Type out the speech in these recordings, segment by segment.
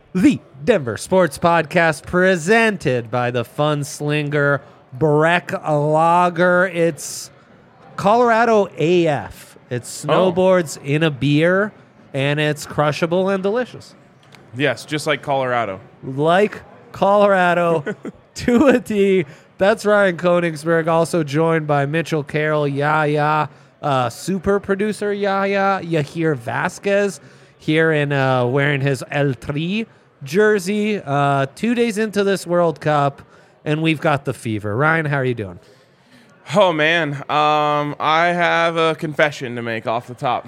The Denver Sports Podcast presented by the Fun Slinger Breck Lager. It's Colorado AF. It's snowboards in a beer, and it's crushable and delicious. Yes, just like Colorado. Like Colorado to a T. That's Ryan Koenigsberg, also joined by Mitchell Carroll, Yaya, super producer Yaya, Yahir Vasquez, here in wearing his El Tri jersey. 2 days into this World Cup, and we've got the fever. Ryan, how are you doing? Oh, man. I have a confession to make off the top.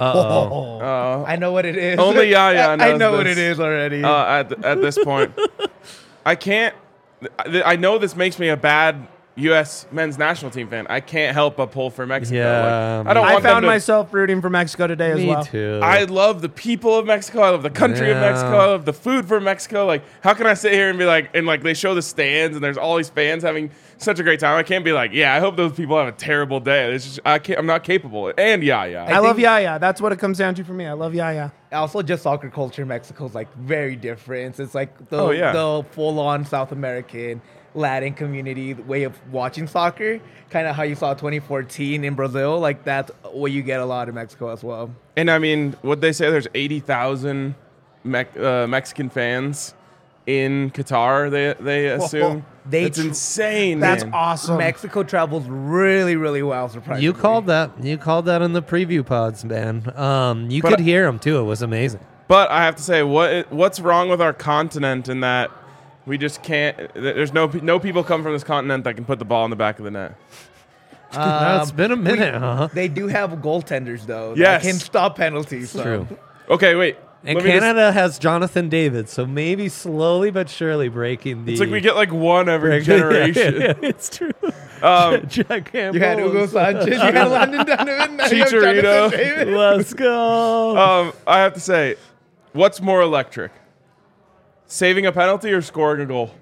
I know what it is. Only Yaya knows I know this. what it is already. At this point. I can't... I know this makes me a bad U.S. men's national team fan. I can't help but pull for Mexico. Yeah, I don't I want them found to... myself rooting for Mexico today as Me well. too. I love the people of Mexico. I love the country of Yeah. Mexico. I love the food from Mexico. Like, how can I sit here and be like, and like they show the stands and there's all these fans having such a great time. I can't be like, yeah, I hope those people have a terrible day. It's just, I'm not capable. And yeah. I love Yaya. That's what it comes down to for me. I love Yaya. Also, just soccer culture in Mexico is like very different. It's like Oh, yeah. the full-on South American Latin community way of watching soccer, kind of how you saw 2014 in Brazil. Like that's what you get a lot in Mexico as well. And I mean, what they say, there's 80,000 Mexican fans in Qatar. They assume it's insane. That's man. awesome. Mexico travels really, really well. Surprisingly, You called that. You called that in the preview pods, man. You could hear him too. It was amazing. But I have to say, what's wrong with our continent in that we just can't? There's no people come from this continent that can put the ball in the back of the net. It's been a minute, huh? They do have goaltenders though. Yes. that can stop penalties. So. True. Okay, wait. And Let me just- Canada has Jonathan David, so maybe slowly but surely breaking the. it's like we get like one every generation. Yeah, it's true. Jack Campbell. You had Hugo Sanchez. You had Landon Donovan. now you have Chicharito. Jonathan David. Let's go. I have to say, what's more electric? Saving a penalty or scoring a goal?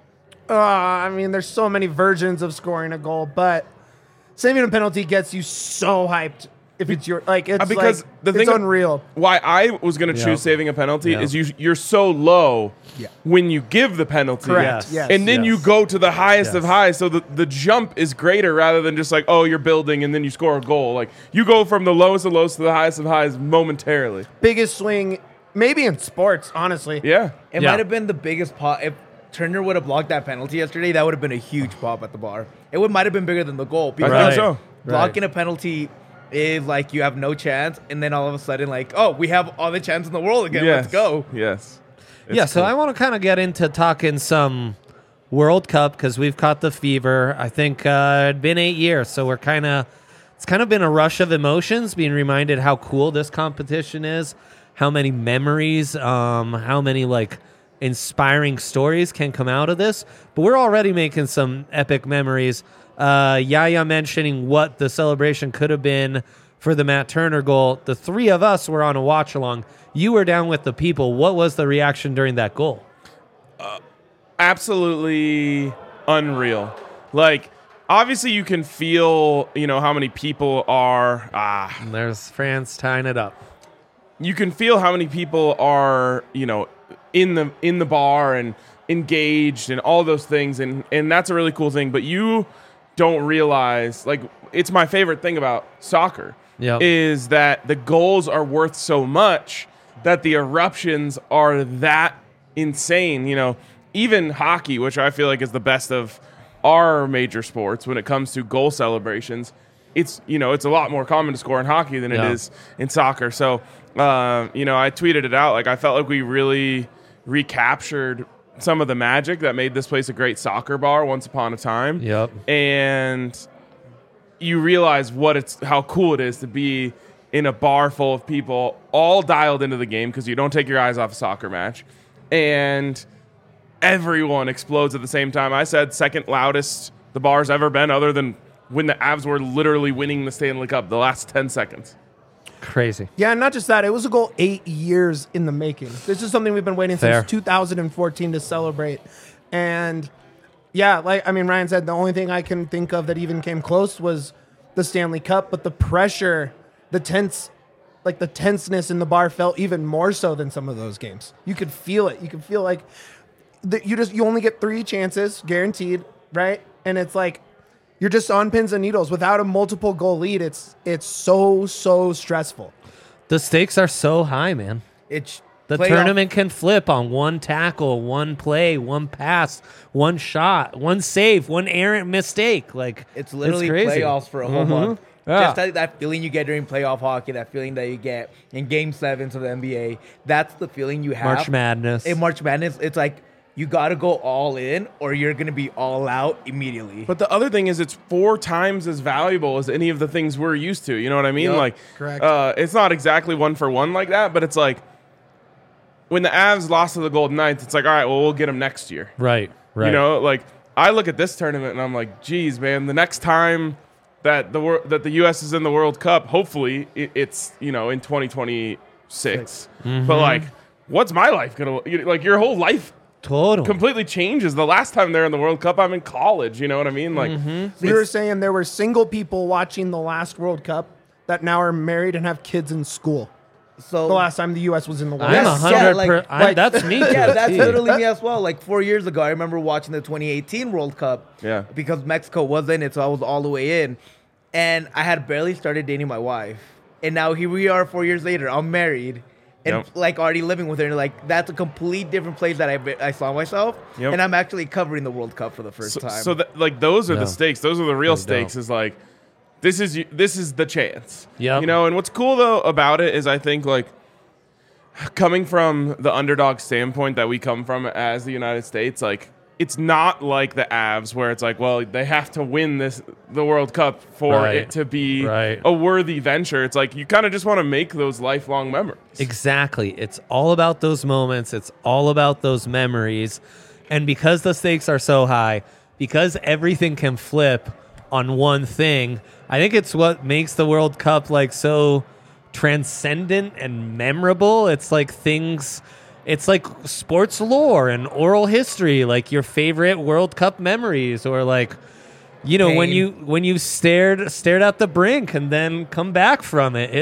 I mean, there's so many versions of scoring a goal, but saving a penalty gets you so hyped. If it's your it's because like, the it's thing- unreal. Why I was going to Yeah. choose saving a penalty Yeah. is you're so low Yeah. when you give the penalty. Correct. Yes. Yes. And then you Yes. go to the highest of Yes. highs, so the jump is greater rather than just like, oh, you're building and then you score a goal. Like, you go from the lowest of lows to the highest of highs momentarily. Biggest swing, maybe in sports, honestly. Yeah. It Yeah. might have been the biggest pop. If Turner would have blocked that penalty yesterday, that would have been a huge pop at the bar. It might have been bigger than the goal. I Because think so. blocking a penalty is like you have no chance, and then all of a sudden, like, oh, we have all the chance in the world again. Yes. Let's go. Yes. Yeah, so I want to kind of get into talking some World Cup because we've caught the fever. I think it'd been 8 years, so it's kind of been a rush of emotions, being reminded how cool this competition is, how many memories, how many like inspiring stories can come out of this. But we're already making some epic memories. Yaya mentioning what the celebration could have been for the Matt Turner goal. The three of us were on a watch along. You were down with the people. What was the reaction during that goal? Absolutely unreal. Like, obviously you can feel, how many people are, And there's France tying it up. you can feel how many people are, in the bar and engaged and all those things. And that's a really cool thing. But you don't realize, like, it's my favorite thing about soccer Yep. is that the goals are worth so much that the eruptions are that insane. Even hockey, which I feel like is the best of our major sports when it comes to goal celebrations, it's a lot more common to score in hockey than Yeah. it is in soccer. So, I tweeted it out. Like, I felt like we really recaptured some of the magic that made this place a great soccer bar once upon a time. Yep. And you realize how cool it is to be in a bar full of people all dialed into the game because you don't take your eyes off a soccer match. And everyone explodes at the same time. I said second loudest the bar's ever been, other than when the Avs were literally winning the Stanley Cup the last 10 seconds. Crazy. Yeah, and not just that. It was a goal 8 years in the making. This is something we've been waiting Fair. since 2014 to celebrate. And yeah, Ryan said the only thing I can think of that even came close was the Stanley Cup, but the pressure, the tense like the tenseness in the bar felt even more so than some of those games. You could feel it. You could feel like you only get 3 chances guaranteed, right? And it's like you're just on pins and needles without a multiple goal lead. It's so stressful. The stakes are so high, man. The tournament can flip on one tackle, one play, one pass, one shot, one save, one errant mistake. Like it's literally crazy. playoffs for a whole month. Yeah. Just that feeling you get during playoff hockey, that feeling that you get in Game 7s of the NBA, that's the feeling you have. March Madness. In March Madness, it's like you got to go all in or you're going to be all out immediately. But the other thing is it's 4 times as valuable as any of the things we're used to. You know what I mean? Yep, like, correct. It's not exactly 1 for 1 like that, but it's like when the Avs lost to the Golden Knights, it's like, all right, well, we'll get them next year. Right. You know, like I look at this tournament and I'm like, geez, man, the next time that the U.S. is in the World Cup, hopefully it's, in 2026. Mm-hmm. But like, what's my life gonna like? Your whole life Totally. completely changes. The last time they're in the World Cup, I'm in college. You know what I mean? Like, We were saying there were single people watching the last World Cup that now are married and have kids in school. So The last time the U.S. was in the World I'm Cup. 100%. That's me. yeah, to a that's T. literally me as well. Like 4 years ago, I remember watching the 2018 World Cup. Yeah. Because Mexico was in it, so I was all the way in. And I had barely started dating my wife. And now here we are 4 years later. I'm married. And Yep. like already living with her. And like that's a complete different place that I saw myself. Yep. And I'm actually covering the World Cup for the first time. So like those are No. the stakes. Those are the real Really stakes. don't. Is like this is the chance. Yep. And what's cool though about it is I think like coming from the underdog standpoint that we come from as the United States, like it's not like the Avs where it's like, well, they have to win the World Cup for Right. it to be Right. a worthy venture. It's like you kind of just want to make those lifelong memories. Exactly. It's all about those moments. It's all about those memories. And because the stakes are so high, because everything can flip on one thing, I think it's what makes the World Cup like so transcendent and memorable. It's like it's like sports lore and oral history, like your favorite World Cup memories, or like, when you stared at the brink and then come back from it.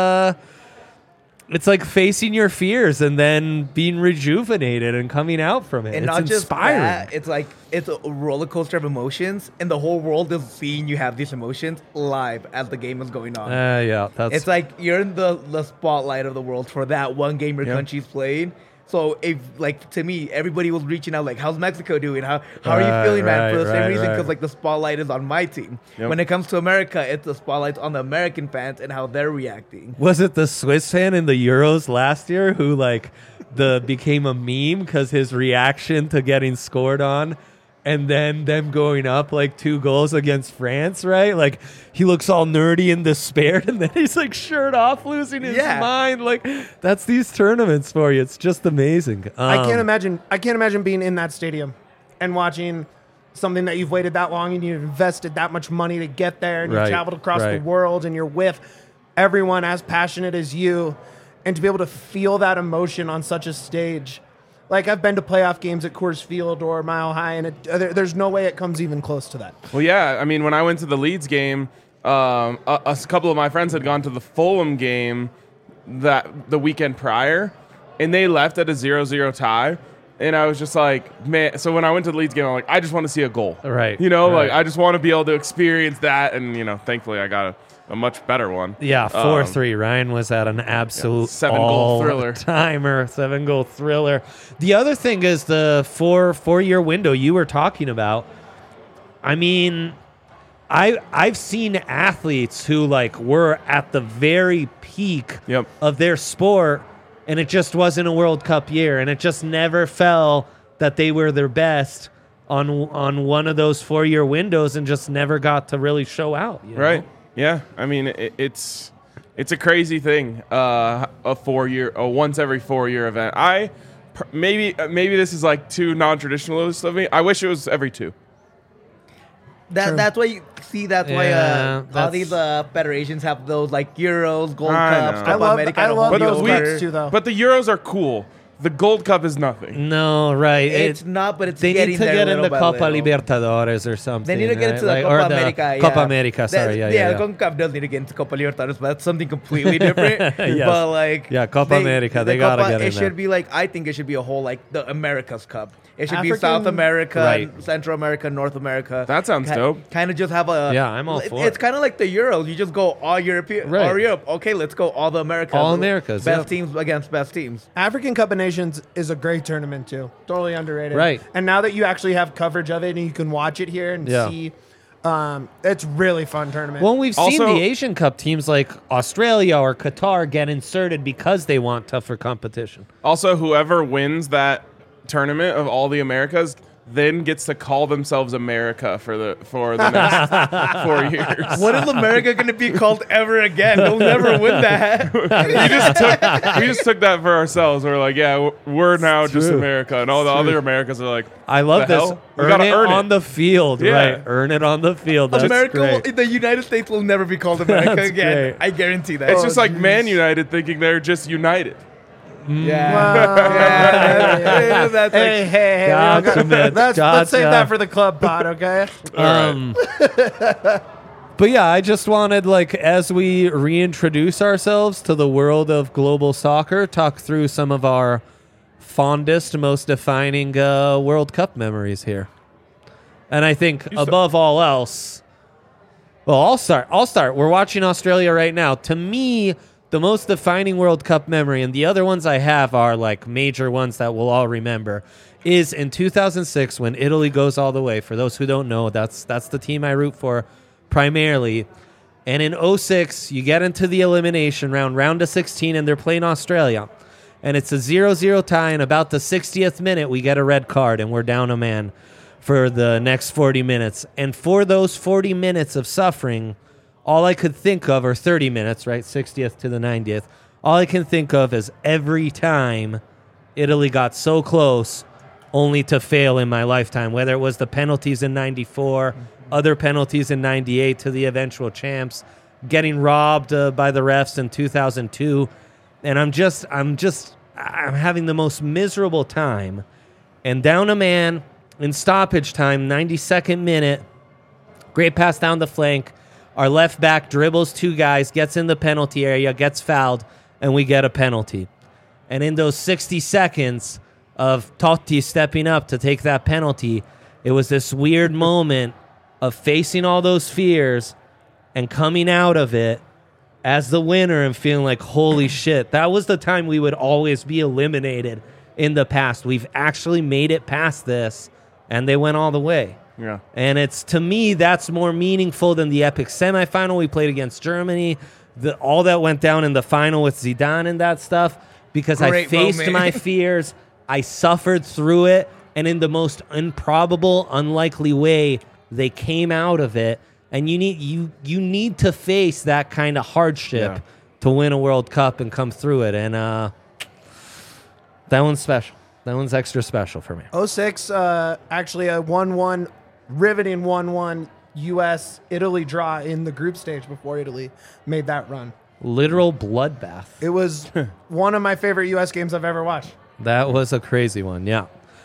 It's like facing your fears and then being rejuvenated and coming out from it. and it's not just inspiring. that, it's like it's a roller coaster of emotions, and the whole world is seeing you have these emotions live as the game is going on. Yeah, that's It's like you're in the spotlight of the world for that one game your Yeah. country's playing. So if like to me, everybody was reaching out like, "How's Mexico doing? How are you feeling, man?" For the same reason, because like the spotlight is on my team. Yep. When it comes to America, it's the spotlight on the American fans and how they're reacting. Was it the Swiss fan in the Euros last year who like became a meme because his reaction to getting scored on, and then them going up like 2 goals against France, right? Like he looks all nerdy and despaired, and then he's like shirt off, losing his Yeah. mind. Like that's these tournaments for you. It's just amazing. I can't imagine being in that stadium and watching something that you've waited that long and you've invested that much money to get there, and Right, you've traveled across right. the world, and you're with everyone as passionate as you, and to be able to feel that emotion on such a stage. Like I've been to playoff games at Coors Field or Mile High, and there's no way it comes even close to that. Well, yeah. I mean, when I went to the Leeds game, a couple of my friends had gone to the Fulham game the weekend prior, and they left at a 0-0 tie. And I was just like, man. So when I went to the Leeds game, I'm like, I just want to see a goal. Right, Like right. I just want to be able to experience that. And thankfully I got a much better one. Yeah, 4-3. Ryan was at an absolute 7-goal thriller. Timer, 7-goal thriller. The other thing is the four-year window you were talking about. I mean, I've seen athletes who like were at the very peak Yep. of their sport, and it just wasn't a World Cup year, and it just never fell that they were their best on one of those 4-year windows, and just never got to really show out. You know? Right. Yeah. I mean, it's a crazy thing. A once every 4-year event. Maybe this is like too non-traditionalist of me. I wish it was every 2. That's why you see. That's Yeah, why all that's- these federations have those like Euros, Gold I Cups, know. Copa America, and a whole I love deal those where- leagues too, though. But the Euros are cool the Gold Cup is nothing. No, right. It's not, but it's They getting need to there get in little the by Copa little. Libertadores or something. They need to get right? into the Like, Copa or the America. Copa yeah. America, sorry. That- Yeah. CONCACAF does need to get into Copa Libertadores, but that's something completely different. Yes. But like, Yeah, Copa America, they gotta get in It there. should be like, I think it should be a whole like the America's Cup. It should be African- South America, Right. Central America, North America. That sounds dope. Kind of just have a. Yeah, I'm all for It's it. kind of like the Euros. You just go all European, Right. all Europe. Okay, let's go all the Americas. All Americas, Best yeah. teams against best teams. African Cup of Nations is a great tournament too. Totally underrated. Right. And now that you actually have coverage of it and you can watch it here and Yeah. see, it's really fun tournament. Well, we've seen Also- the Asian Cup teams like Australia or Qatar get inserted because they want tougher competition. Also, whoever wins that tournament of all the Americas then gets to call themselves America for the next 4 years. What is America going to be called ever again? They'll never win that. We just took that for ourselves. We're like, yeah, we're now just true. America, and all the other Americas are like, I love the this. hell? We Earn gotta it earn on it. the field, Yeah. right? Earn it on the field. That's America, great. the United States will never be called America That's again. great. I guarantee that. it's just like Man United thinking they're just united. yeah. Wow. Yeah, that's like, hey, Gotcha, Mitch. let's save Gotcha. that for the club pod, okay? But yeah, I just wanted, like, as we reintroduce ourselves to the world of global soccer, talk through some of our fondest, most defining World Cup memories here. And I think above all else, well, I'll start. We're watching Australia right now. To me, the most defining World Cup memory, and the other ones I have are like major ones that we'll all remember, is in 2006 when Italy goes all the way. For those who don't know, that's the team I root for primarily. And in 06, you get into the elimination round of 16, and they're playing Australia. And it's a 0-0 tie, and about the 60th minute, we get a red card, and we're down a man for the next 40 minutes. And for those 40 minutes of suffering, all I could think of, or 30 minutes, right, 60th to the 90th, all I can think of is every time Italy got so close only to fail in my lifetime, whether it was the penalties in 94, other penalties in 98 to the eventual champs, getting robbed by the refs in 2002. And I'm having the most miserable time. And down a man in stoppage time, 92nd minute, great pass down the flank. Our left back dribbles two guys, gets in the penalty area, gets fouled, and we get a penalty. And in those 60 seconds of Totti stepping up to take that penalty, it was this weird moment of facing all those fears and coming out of it as the winner and feeling like, holy shit, that was the time we would always be eliminated in the past. We've actually made it past this, and they went all the way. Yeah. And it's, to me, that's more meaningful than the epic semifinal we played against Germany, all that went down in the final with Zidane and that stuff, because I Great faced moment. my fears, I suffered through it, and in the most improbable, unlikely way, they came out of it. And you need to face that kind of hardship Yeah. to win a World Cup and come through it. And that one's special. That one's extra special for me. 06, actually a 1-1, riveting 1-1 U.S.-Italy draw in the group stage before Italy made that run. Literal bloodbath. It was one of my favorite U.S. games I've ever watched. That was a crazy one, yeah.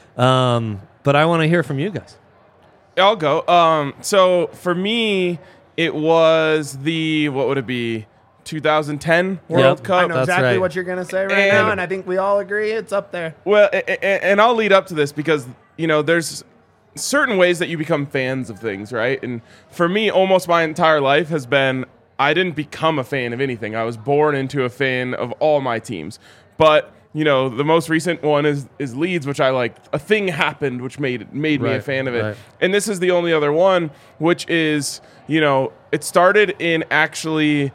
But I want to hear from you guys. I'll go. So for me, it was what would it be? 2010 World Yep. Cup. I know That's exactly right. what you're going to say right And- now, and I think we all agree it's up there. Well, and I'll lead up to this because, there's certain ways that you become fans of things, right? And for me, almost my entire life has been, I didn't become a fan of anything. I was born into a fan of all my teams. But, the most recent one is Leeds, which I like. A thing happened which made me a Right, fan of it. right. And this is the only other one, which is, it started in actually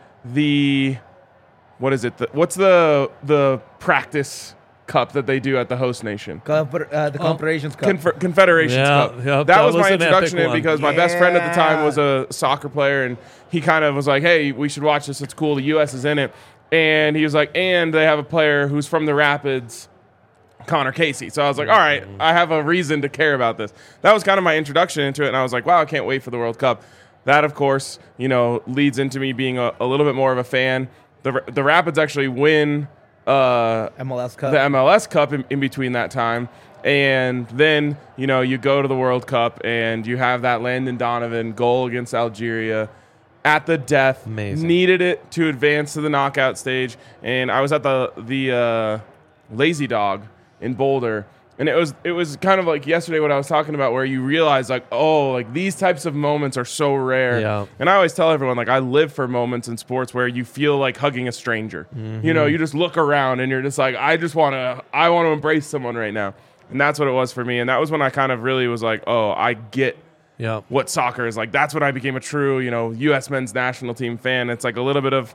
what is it? What's the practice cup that they do at the host nation? the Confederations Cup. Confederations Yeah, Cup. yep, that was my an epic introduction to it one. because my best friend at the time Yeah. was a soccer player, and he kind of was like, "Hey, we should watch this. It's cool. The U.S. is in it." And he was like, "And they have a player who's from the Rapids, Connor Casey." So I was like, "All right, I have a reason to care about this." That was kind of my introduction into it, and I was like, "Wow, I can't wait for the World Cup." That, of course, leads into me being a little bit more of a fan. The Rapids actually win MLS Cup. the MLS Cup in between that time. And then, you go to the World Cup and you have that Landon Donovan goal against Algeria at the death. Amazing. Needed it to advance to the knockout stage. And I was at the Lazy Dog in Boulder. And it was kind of like yesterday what I was talking about, where you realize these types of moments are so rare. Yeah. And I always tell everyone, I live for moments in sports where you feel like hugging a stranger. Mm-hmm. You just look around and you're just like, I want to embrace someone right now. And that's what it was for me. And that was when I kind of really was like, oh, I get Yeah. what soccer is like. That's when I became a true, U.S. men's national team fan. It's like a little bit of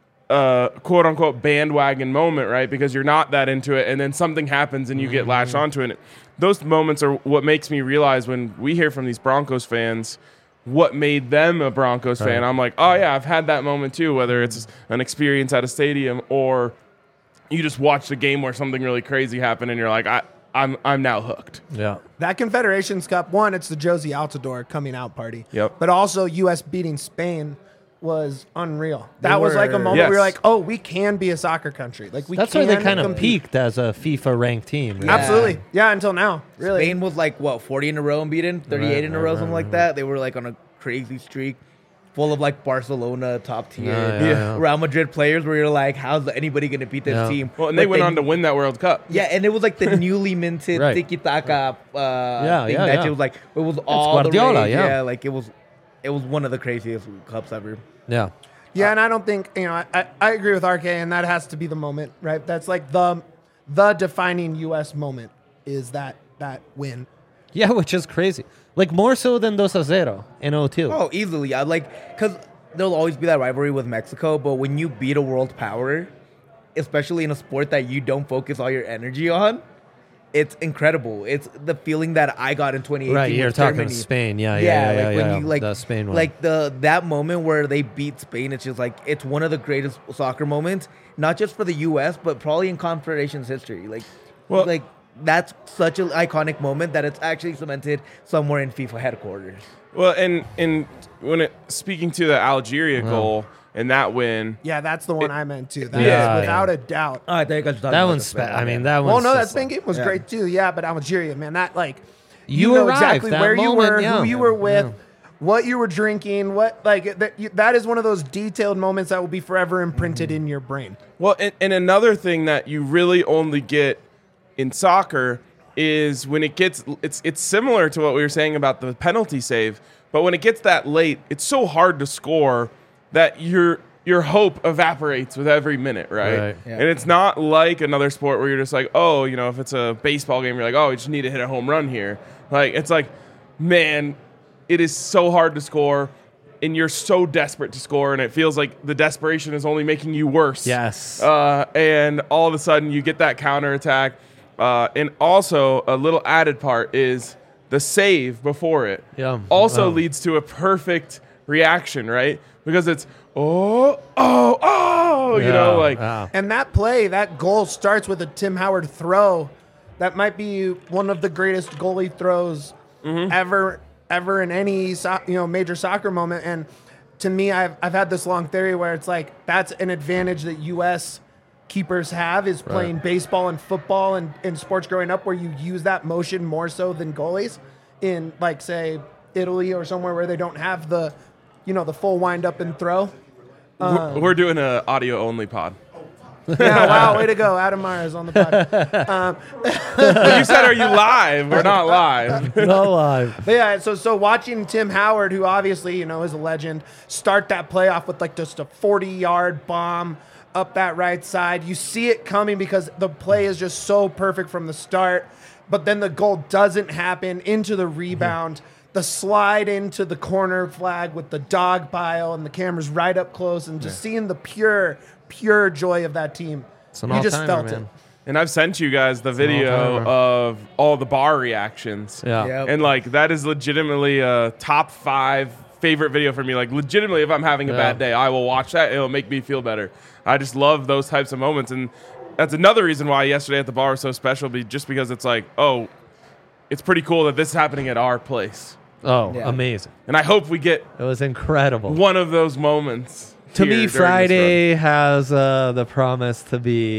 quote unquote bandwagon moment, right? Because you're not that into it, and then something happens and you get latched onto it. Those moments are what makes me realize when we hear from these Broncos fans what made them a Broncos fan. Right. I'm like, oh yeah, I've had that moment too, whether it's an experience at a stadium or you just watched a game where something really crazy happened and you're like, I'm now hooked. Yeah. That Confederations Cup, one, it's the Josie Altidore coming out party. Yep. But also U.S. beating Spain was unreal. That was like a were- moment Yes. where you're like, oh, we can be a soccer country. Like we That's can why they kind of compete. peaked as a FIFA ranked team. Right? Yeah. Absolutely. Yeah, until now. Really. Spain was like, 40 in a row unbeaten? 38 in a row, something like that. They were like on a crazy streak full of like Barcelona, top tier, Yeah. Real Madrid players where you're like, how's anybody going to beat this Yeah. team? Well, and they But went on to win that World Cup. Yeah, and it was like the newly minted Right. tiki-taka thing that yeah. it was like, it was all the Guardiola, rage. yeah. Like it was one of the craziest cups ever. Yeah. Yeah, and I don't think, I agree with RK, and that has to be the moment, right? That's like the defining U.S. moment is that win. Yeah, which is crazy. Like more so than 2-0 in 02. Oh, easily. I like, because there'll always be that rivalry with Mexico, but when you beat a world power, especially in a sport that you don't focus all your energy on, it's incredible. It's the feeling that I got in 2018. Right, you're with talking Germany. Spain. Yeah. Like when you like the Spain one. like that moment where they beat Spain, it's just like it's one of the greatest soccer moments, not just for the U.S. but probably in Confederations history. Like that's such an iconic moment that it's actually cemented somewhere in FIFA headquarters. Well, and when speaking to the Algeria goal and that win, Yeah, that's the one I meant too. That is Yeah, without a doubt. Oh, I think I was talking that about one's the Spain I one, mean, yeah. that one's Well, no, that just Spain game was yeah. great too. Yeah, but Algeria, man, that like You know arrived, exactly that where you moment, were, yeah. who you were with, Yeah. what you were drinking, what like that is one of those detailed moments that will be forever imprinted in your brain. well, and another thing that you really only get in soccer is when it gets it's similar to what we were saying about the penalty save, but when it gets that late, it's so hard to score that your hope evaporates with every minute, right? Right. Yeah. And it's not like another sport where you're just like, oh, if it's a baseball game, you're like, oh, you just need to hit a home run here. Like it's like, man, it is so hard to score, and you're so desperate to score, and it feels like the desperation is only making you worse. Yes. And all of a sudden you get that counterattack. And also a little added part is the save before it. Yeah. Also Wow. leads to a perfect reaction, right? Because it's you know, like wow. And that play, that goal starts with a Tim Howard throw. That might be one of the greatest goalie throws ever in any major soccer moment. And to me, I've had this long theory where it's like that's an advantage that U.S. keepers have is playing baseball and football and sports growing up, where you use that motion more so than goalies in like say Italy or somewhere where they don't have the the full wind up and throw. we're doing an audio only pod. Yeah, wow, way to go. Adam Myers on the pod. But you said, are you live? We're not live. No live. But yeah, so watching Tim Howard, who obviously, is a legend, start that playoff with like just a 40-yard bomb up that right side. You see it coming because the play is just so perfect from the start. But then the goal doesn't happen into the rebound. The slide into the corner flag with the dog pile and the cameras right up close and just seeing the pure joy of that team. It's an You just all-timer, felt man. it. And I've sent you guys the video all-timer. of all the bar reactions. Yeah. Yep. And like that is legitimately a top 5 favorite video for me. Like legitimately, if I'm having a bad day, I will watch that. It'll make me feel better. I just love those types of moments. And that's another reason why yesterday at the bar was so special, just because it's like, oh, it's pretty cool that this is happening at our place. Oh, Yeah. amazing. And I hope we get It was incredible. one of those moments. To here me, during this Friday has the promise to be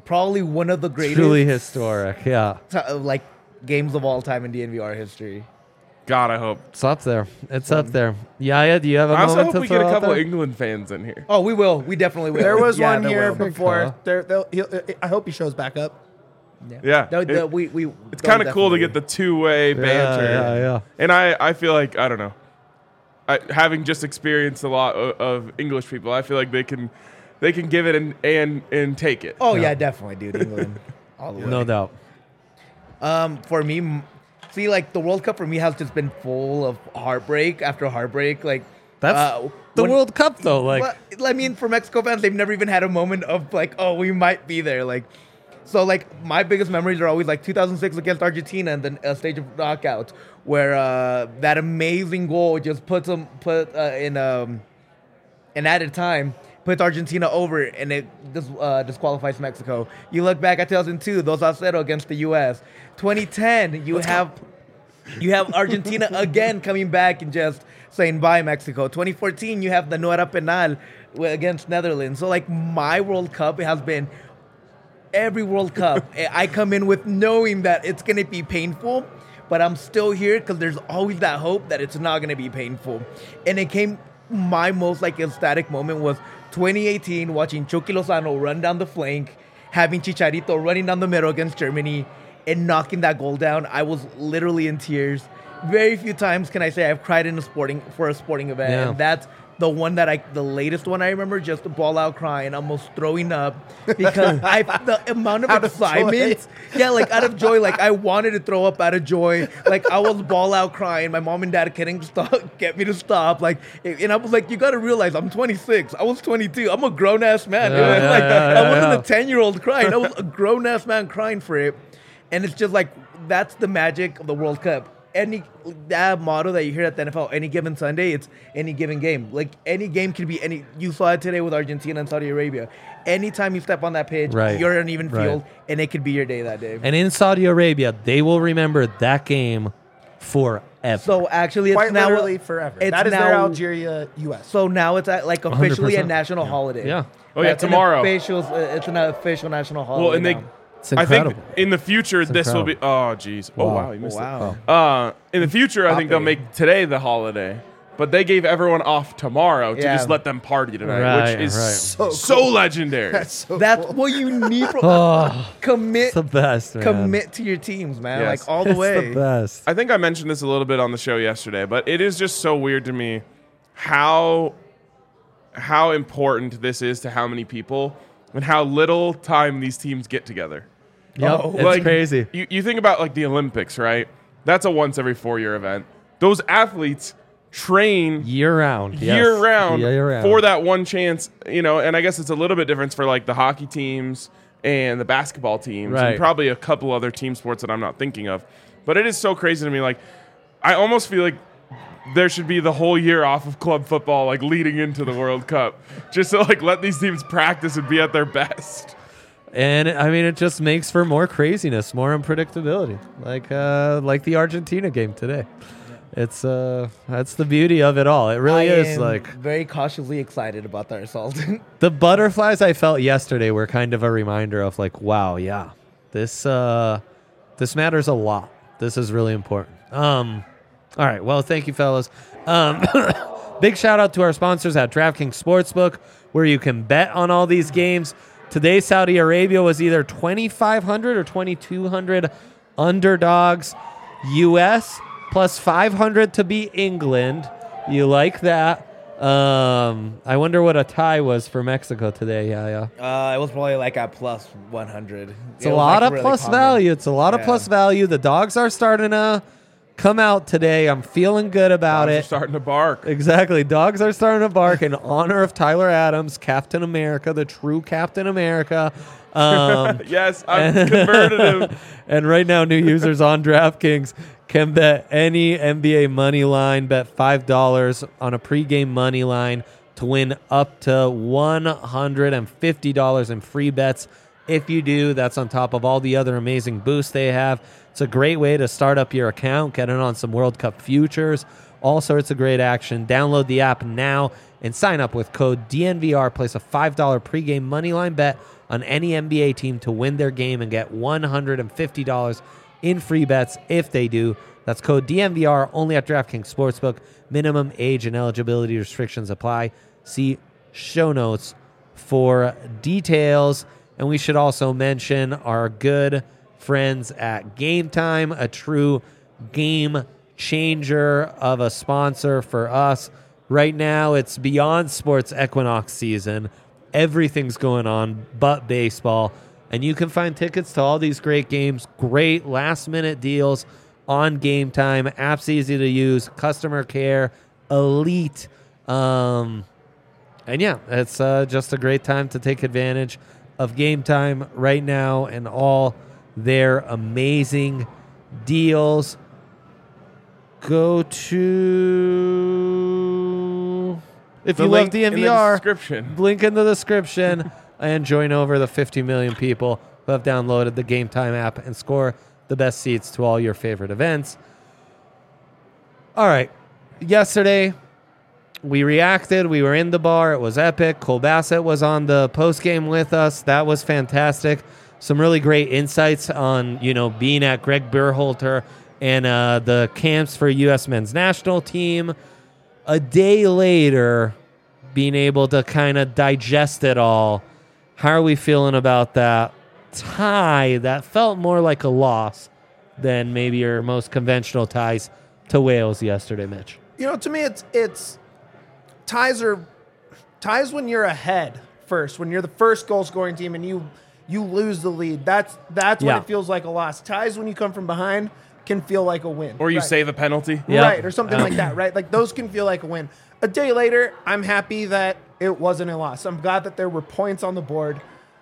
probably one of the greatest Truly historic. Yeah. like games of all time in DNVR history. God, I hope. It's up there. It's up there. Yaya, do you have a I also moment hope to we get throw a out couple there? England fans in here. Oh, we will. We definitely will. There was Yeah, one there here will. before. Call. I hope he shows back up. Yeah. It's kind of cool to get the two-way banter. Yeah. And I feel like, I don't know, having just experienced a lot of English people, I feel like they can give it and take it. Oh yeah, definitely, dude. England, all the way. No doubt. For me, see, like the World Cup for me has just been full of heartbreak after heartbreak. Like That's the World Cup, though. Like, well, I mean, for Mexico fans, they've never even had a moment of like, oh, we might be there. Like, so like my biggest memories are always like 2006 against Argentina and then a stage of knockouts where that amazing goal just put in added time. Puts Argentina over and it disqualifies Mexico. You look back at 2002, 2-0 against the U.S. 2010, you have Argentina again coming back and just saying bye Mexico. 2014, you have the no era penal against Netherlands. So like my World Cup, it has been every World Cup. I come in with knowing that it's gonna be painful, but I'm still here because there's always that hope that it's not gonna be painful. And it came. My most like ecstatic moment was 2018, watching Chucky Lozano run down the flank, having Chicharito running down the middle against Germany, and knocking that goal down. I was literally in tears. Very few times can I say I've cried in a sporting event, Yeah. and that's the one the latest one I remember, just the ball out crying, almost throwing up because the amount of Out of excitement, like out of joy, like I wanted to throw up out of joy, like I was ball out crying. My mom and dad couldn't get me to stop, like, and I was like, you got to realize I'm 26, I was 22, I'm a grown ass man, I wasn't a 10-year-old crying, I was a grown ass man crying for it, and it's just like that's the magic of the World Cup. That motto that you hear at the NFL, any given Sunday, it's any given game. Like any game can be any. You saw it today with Argentina and Saudi Arabia. Anytime you step on that pitch, you're in an even field, and it could be your day that day. and in Saudi Arabia, they will remember that game forever. So actually, it's Quite now literally forever. It's That is now, their Algeria U.S. So now it's like officially a 100%. national holiday. Yeah. Oh, yeah, It's an tomorrow. It's an official national holiday. Well, and they, now. It's I incredible. think in the future this will be. incredible. Oh, geez. Oh, wow, you missed Wow. it. In the future, I think they'll make today the holiday, but they gave everyone off tomorrow to Yeah. just let them party tonight, Right, which is right. so legendary. That's so That's cool. what you need. Oh, Commit. it's the best, man. Commit to your teams, man. Yes. Like all the It's way. the best. I think I mentioned this a little bit on the show yesterday, but it is just so weird to me how important this is to how many people and how little time these teams get together. Yep, Oh. it's Like, crazy. You think about like the Olympics, right? That's a once every 4-year event. Those athletes train Year round. year yes. round Year round. for that one chance, and I guess it's a little bit different for like the hockey teams and the basketball teams Right. and probably a couple other team sports that I'm not thinking of. But it is so crazy to me. Like, I almost feel like there should be the whole year off of club football, like leading into the World Cup, just to like let these teams practice and be at their best. And I mean, it just makes for more craziness, more unpredictability, like the Argentina game today. It's that's the beauty of it all. It really is am like very cautiously excited about that result. the butterflies I felt yesterday were kind of a reminder of like, wow, yeah, this matters a lot. This is really important. All right, well, thank you, fellas. Big shout out to our sponsors at DraftKings Sportsbook, where you can bet on all these games. Today, Saudi Arabia was either 2,500 or 2,200 underdogs. U.S. plus 500 to beat England. You like that? I wonder what a tie was for Mexico today. Yeah. It was probably like at plus 100. It's a lot of plus common. value. It's a lot of Yeah. plus value. The dogs are starting to come out today. I'm feeling good about Dogs are it. starting to bark. Exactly. Dogs are starting to bark in honor of Tyler Adams, Captain America, the true Captain America. Yes, I've converted him. And right now, new users on DraftKings can bet any NBA money line, bet $5 on a pregame money line to win up to $150 in free bets. If you do, that's on top of all the other amazing boosts they have. It's a great way to start up your account, get in on some World Cup futures, all sorts of great action. Download the app now and sign up with code DNVR. Place a $5 pregame moneyline bet on any NBA team to win their game and get $150 in free bets if they do. That's code DNVR only at DraftKings Sportsbook. Minimum age and eligibility restrictions apply. See show notes for details. And we should also mention our good friends at Game Time, a true game changer of a sponsor for us. Right now, it's beyond sports equinox season. Everything's going on but baseball. And you can find tickets to all these great games, great last-minute deals on Game Time. App's easy to use, customer care, elite. And yeah, it's just a great time to take advantage of Game Time right now and all their amazing deals. Go to, if you love DNVR, link in the description and join over the 50 million people who have downloaded the Game Time app and score the best seats to all your favorite events. All right. Yesterday, we reacted. We were in the bar. It was epic. Cole Bassett was on the post game with us. That was fantastic. Some really great insights on, being at Greg Berhalter and the camps for U.S. men's national team. A day later, being able to kind of digest it all. How are we feeling about that tie that felt more like a loss than maybe your most conventional ties to Wales yesterday, Mitch? To me, it's ties when you're ahead first, when you're the first goal scoring team and you lose the lead. That's when it feels like a loss. Ties when you come from behind can feel like a win. Or you save a penalty. Right, or something like that, right? Like those can feel like a win. A day later, I'm happy that it wasn't a loss. I'm glad that there were points on the board.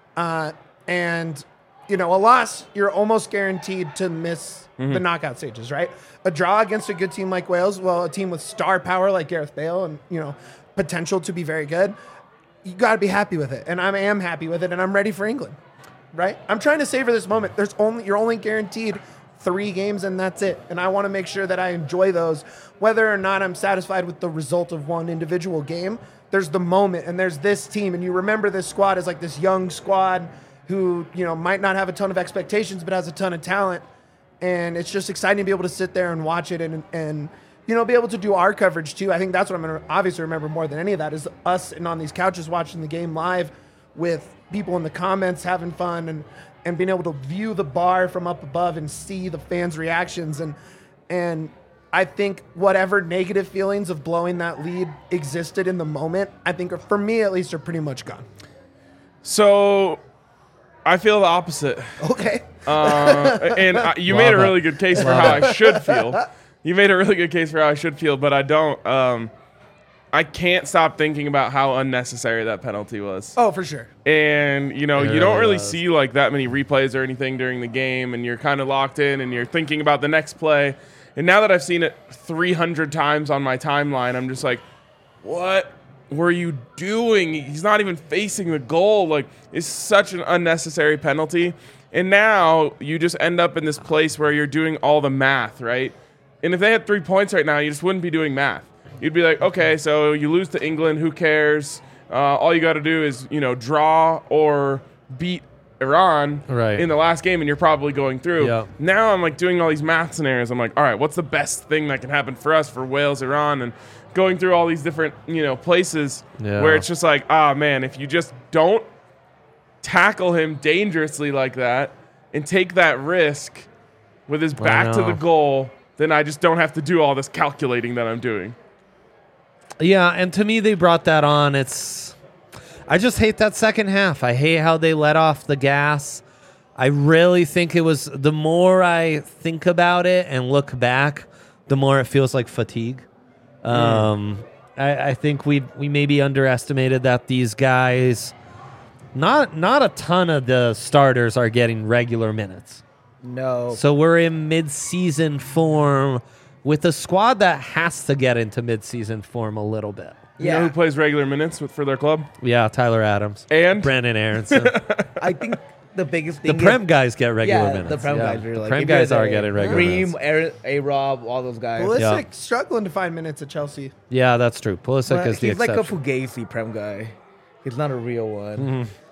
And, a loss, you're almost guaranteed to miss the knockout stages, right? A draw against a good team like Wales, a team with star power like Gareth Bale and, potential to be very good, you got to be happy with it. And I am happy with it, and I'm ready for England, right? I'm trying to savor this moment. You're only guaranteed 3 games, and that's it. And I want to make sure that I enjoy those. Whether or not I'm satisfied with the result of one individual game, there's the moment, and there's this team. And you remember this squad as like this young squad who, might not have a ton of expectations, but has a ton of talent. And it's just exciting to be able to sit there and watch it and be able to do our coverage too. I think that's what I'm going to obviously remember more than any of that is us sitting on these couches watching the game live with people in the comments having fun and being able to view the bar from up above and see the fans' reactions. And I think whatever negative feelings of blowing that lead existed in the moment, I think for me at least are pretty much gone. So I feel the opposite. Okay. And you made a really good case for how I should feel. You made a really good case for how I should feel, but I don't. I can't stop thinking about how unnecessary that penalty was. Oh, for sure. And, you don't really see like that many replays or anything during the game, and you're kind of locked in and you're thinking about the next play. And now that I've seen it 300 times on my timeline, I'm just like, what were you doing? He's not even facing the goal. Like, it's such an unnecessary penalty. And now you just end up in this place where you're doing all the math, right? And if they had 3 points right now, you just wouldn't be doing math. You'd be like, okay, so you lose to England, who cares? All you got to do is, draw or beat Iran in the last game, and you're probably going through. Yep. Now I'm like doing all these math scenarios. I'm like, all right, what's the best thing that can happen for us, for Wales, Iran, and going through all these different, places where it's just like, man, if you just don't tackle him dangerously like that and take that risk with his back to the goal, then I just don't have to do all this calculating that I'm doing. Yeah, and to me, they brought that on. I just hate that second half. I hate how they let off the gas. I really think it was, the more I think about it and look back, the more it feels like fatigue. I think we maybe underestimated that these guys, not a ton of the starters are getting regular minutes. No. So we're in mid-season form with a squad that has to get into mid-season form a little bit. You know who plays regular minutes for their club? Yeah, Tyler Adams. And? Brandon Aronson. I think the biggest thing the Prem guys get regular minutes. The Prem guys are like... Prem guys are getting regular minutes. A-Rob, all those guys. Pulisic struggling to find minutes at Chelsea. Yeah, that's true. Pulisic is the exception. He's like a Fugazi Prem guy. He's not a real one. Mm-hmm.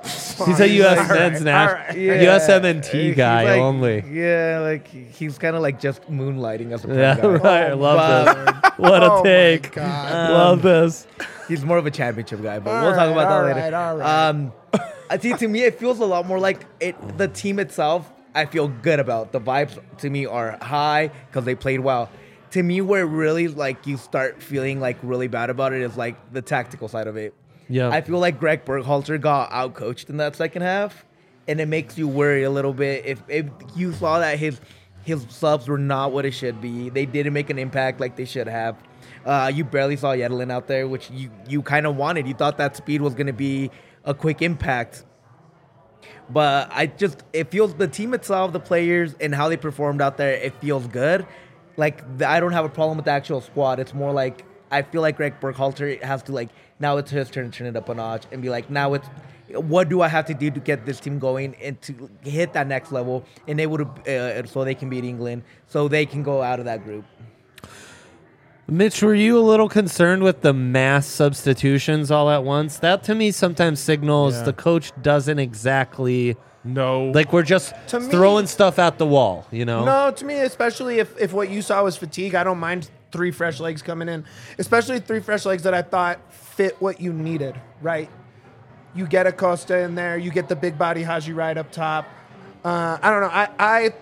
He's a U.S. All men's right, national, all right. USMNT He's guy like- only. Yeah, like he's kind of like just moonlighting as a pro Yeah, guy. right. I love this. What Oh a my take. God. Love this. He's more of a championship guy, but All we'll talk about that right, later. all right. I see. To me, it feels a lot more like it. The team itself, I feel good about. The vibes to me are high because they played well. To me, where really like you start feeling like really bad about it is like the tactical side of it. Yeah. I feel like Greg Berhalter got outcoached in that second half, and it makes you worry a little bit. If you saw that his subs were not what it should be, they didn't make an impact like they should have. You barely saw Yedlin out there, which you kind of wanted. You thought that speed was going to be a quick impact. But it feels the team itself, the players, and how they performed out there, it feels good. Like, I don't have a problem with the actual squad. It's more like, I feel like Greg Berhalter has to, like, now it's his turn to turn it up a notch and be like, now it's, what do I have to do to get this team going and to hit that next level and able to, so they can beat England, so they can go out of that group. Mitch, were you a little concerned with the mass substitutions all at once? That to me sometimes signals the coach doesn't exactly No. like we're just To me- throwing stuff at the wall, you know? No, to me, especially if what you saw was fatigue, I don't mind 3 fresh legs coming in, especially 3 fresh legs that I thought fit what you needed, right? You get Acosta in there, you get the big body Haji right up top. I don't know.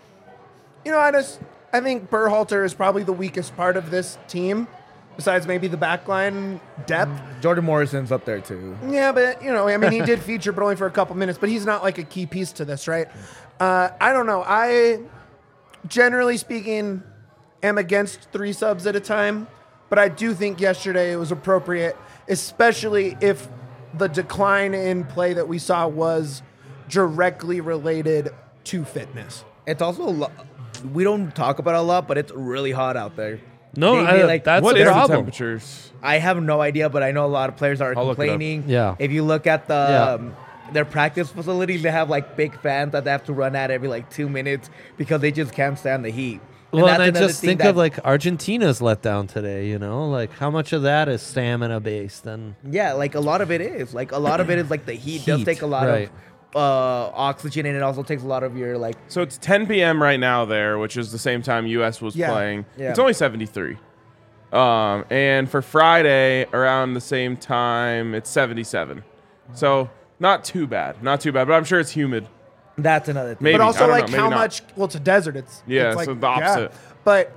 I think Berhalter is probably the weakest part of this team, besides maybe the backline depth. Jordan Morrison's up there too. Yeah, but he did feature, but only for a couple minutes. But he's not like a key piece to this, right? I don't know. I, generally speaking, am against 3 subs at a time, but I do think yesterday it was appropriate, especially if the decline in play that we saw was directly related to fitness. It's also we don't talk about it a lot, but it's really hot out there. No, that's what the is the problem. temperatures? I have no idea, but I know a lot of players are I'll look it up. complaining. Yeah. If you look at the Yeah. their practice facilities, they have like big fans that they have to run at every like 2 minutes because they just can't stand the heat. Well, and that's I another just thing think that- of like Argentina's letdown today, you know? Like how much of that is stamina based and yeah, like a lot of it is like the heat does Heat, take a lot right. of oxygen, and it also takes a lot of your like. So it's 10 p.m. right now there, which is the same time U.S. was Yeah. playing. Yeah. It's only 73. And for Friday, around the same time, it's 77. So not too bad. Not too bad, but I'm sure it's humid. That's another thing. Maybe. But I also, don't like know, maybe how not. much? Well, it's a desert. It's Yeah, it's like, so the opposite. But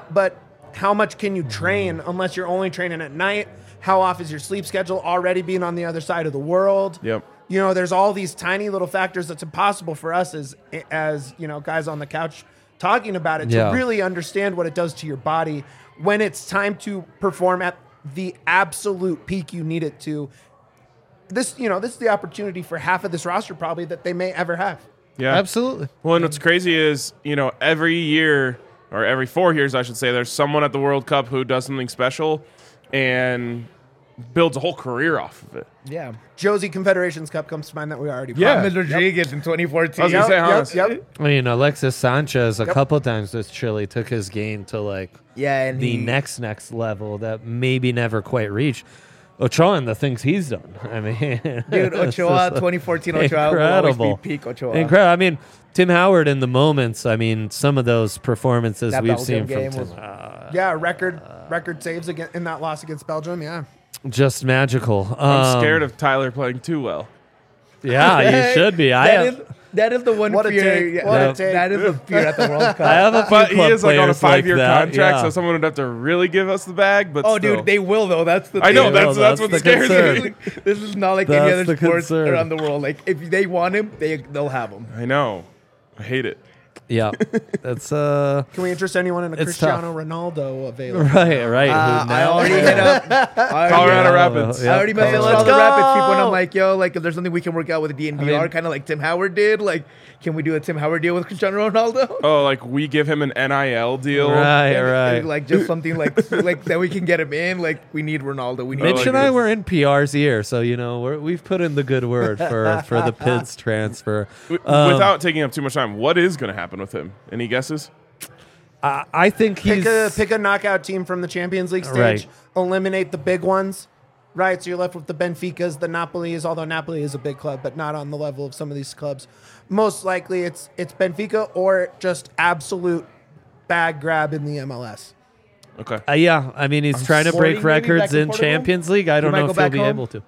how much can you train unless you're only training at night? How off is your sleep schedule already being on the other side of the world? Yep. There's all these tiny little factors that's impossible for us as guys on the couch talking about it Yeah. to really understand what it does to your body when it's time to perform at the absolute peak you need it to. This is the opportunity for half of this roster probably that they may ever have. Yeah. absolutely. Well, and what's crazy is, every year, or every 4 years, I should say, there's someone at the World Cup who does something special and builds a whole career off of it. yeah, Josie Confederations Cup comes to mind that we already Yeah. promised. Rodriguez in I 2014. was gonna say, Hans. Yep. I mean, Alexis Sanchez a Yep. couple times with Chile took his game to like Yeah, and the he- next level that maybe never quite reached. Ochoa and the things he's done. I mean, Dude, it's Ochoa, just 2014 Ochoa will always incredible. be peak Ochoa. Incredible. I mean, Tim Howard in the moments. I mean, some of those performances That we've Belgium seen from game Tim, was- Yeah, record saves in that loss against Belgium. Yeah. just magical. I'm scared of Tyler playing too well. Yeah, you should be. That is the one What a fear. take, yeah, what a that- take. that is a fear at the World Cup. I have a few But he club is like on a players like 5-year that, contract, yeah. so someone would have to really give us the bag. But Oh, still. dude, they will though. That's the. I know thing. They that's will, what that's the scares concern. me. This is not like That's any other the sports concern. around the world. Like if they want him, they'll have him. I know. I hate it. Yeah, that's Can we interest anyone in a It's Cristiano Ronaldo available? right. Who I now- already hit up Colorado Rapids. I already messaged Let's all the go. Rapids people, and I'm like, yo, like if there's something we can work out with the DNVR, I mean- kind of like Tim Howard did. Like, can we do a Tim Howard deal with Cristiano Ronaldo? Oh, like we give him an NIL deal. Right. Like just something like that we can get him in. Like we need Ronaldo. We need. Mitch like and I this. were in PR's ear, so we've put in the good word for the PIDS transfer. Without taking up too much time, what is going to happen with him? Any guesses? I think he's Pick a knockout team from the Champions League stage. Right. Eliminate the big ones. right? So you're left with the Benficas, the Napolis, although Napoli is a big club, but not on the level of some of these clubs. Most likely it's Benfica or just absolute bag grab in the MLS. Okay. Yeah, I mean, he's trying to Sporting break maybe records back in in Portugal? Champions League. I don't might know go if he'll back be home? able to.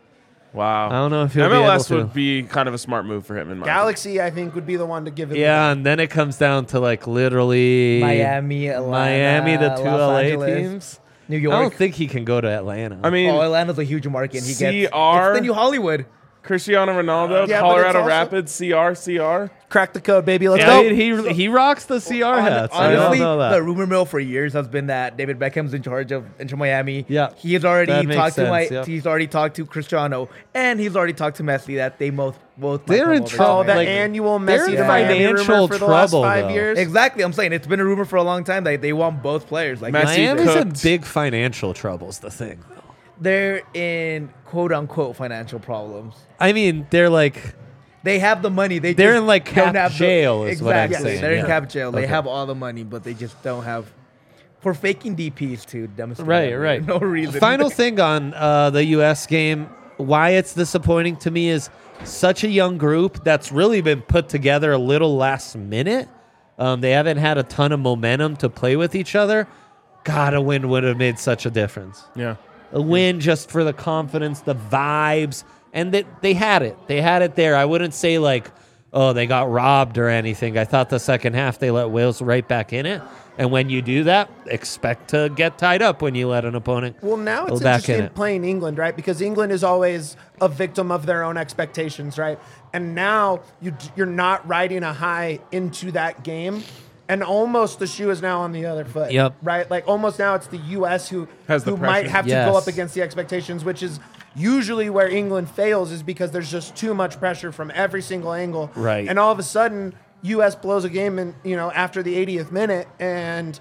Wow. I don't know if he'll be MLS able to. would be kind of a smart move for him in my Galaxy, I think, would be the one to give him. Yeah, and then it comes down to like literally Miami, Atlanta, Miami, the two Los LA Angeles, teams. New I York. don't think he can go to Atlanta. I mean, Oh, Atlanta's a huge market. And he gets CR? it's the new Hollywood. Cristiano Ronaldo, Yeah, but Colorado it's also- Rapids, CR. Crack the code, baby. Let's I go. mean, he rocks the CR hats. I don't Honestly, know that. the rumor mill for years has been that David Beckham's in charge of Inter Miami. Yeah. he has already That makes talked sense, to yeah. he's already talked to Cristiano, and he's already talked to Messi that they both might They're come in over to trouble. Oh, that Like, annual they're Messi in to Miami financial rumor for the last trouble, 5 though. years. Exactly, I'm saying it's been a rumor for a long time that they want both players. Like Messi Miami's in cooked. big financial troubles. The thing, they're in quote unquote financial problems. I mean, they're like They have the money. They're They're in, like, cap don't have jail is what I'm exactly. saying, They're in yeah. cap jail. They Okay. have all the money, but they just don't have for faking DPs to demonstrate. Right, that right. No reason. Final thing on the U.S. game, why it's disappointing to me is such a young group that's really been put together a little last minute. They haven't had a ton of momentum to play with each other. God, a win would have made such a difference. Yeah. A win just for the confidence, the vibes, and that they had it. They had it there. I wouldn't say like, oh, they got robbed or anything. I thought the second half they let Wales right back in it. And when you do that, expect to get tied up when you let an opponent Well, now go it's back in interesting it. playing England, right? Because England is always a victim of their own expectations, right? And now you're not riding a high into that game, and almost the shoe is now on the other foot. Yep. Right? Like almost now it's the U.S. who Has the might pressure. have to Yes. go up against the expectations, which is usually where England fails, is because there's just too much pressure from every single angle. Right. And all of a sudden, U.S. blows a game in after the 80th minute, and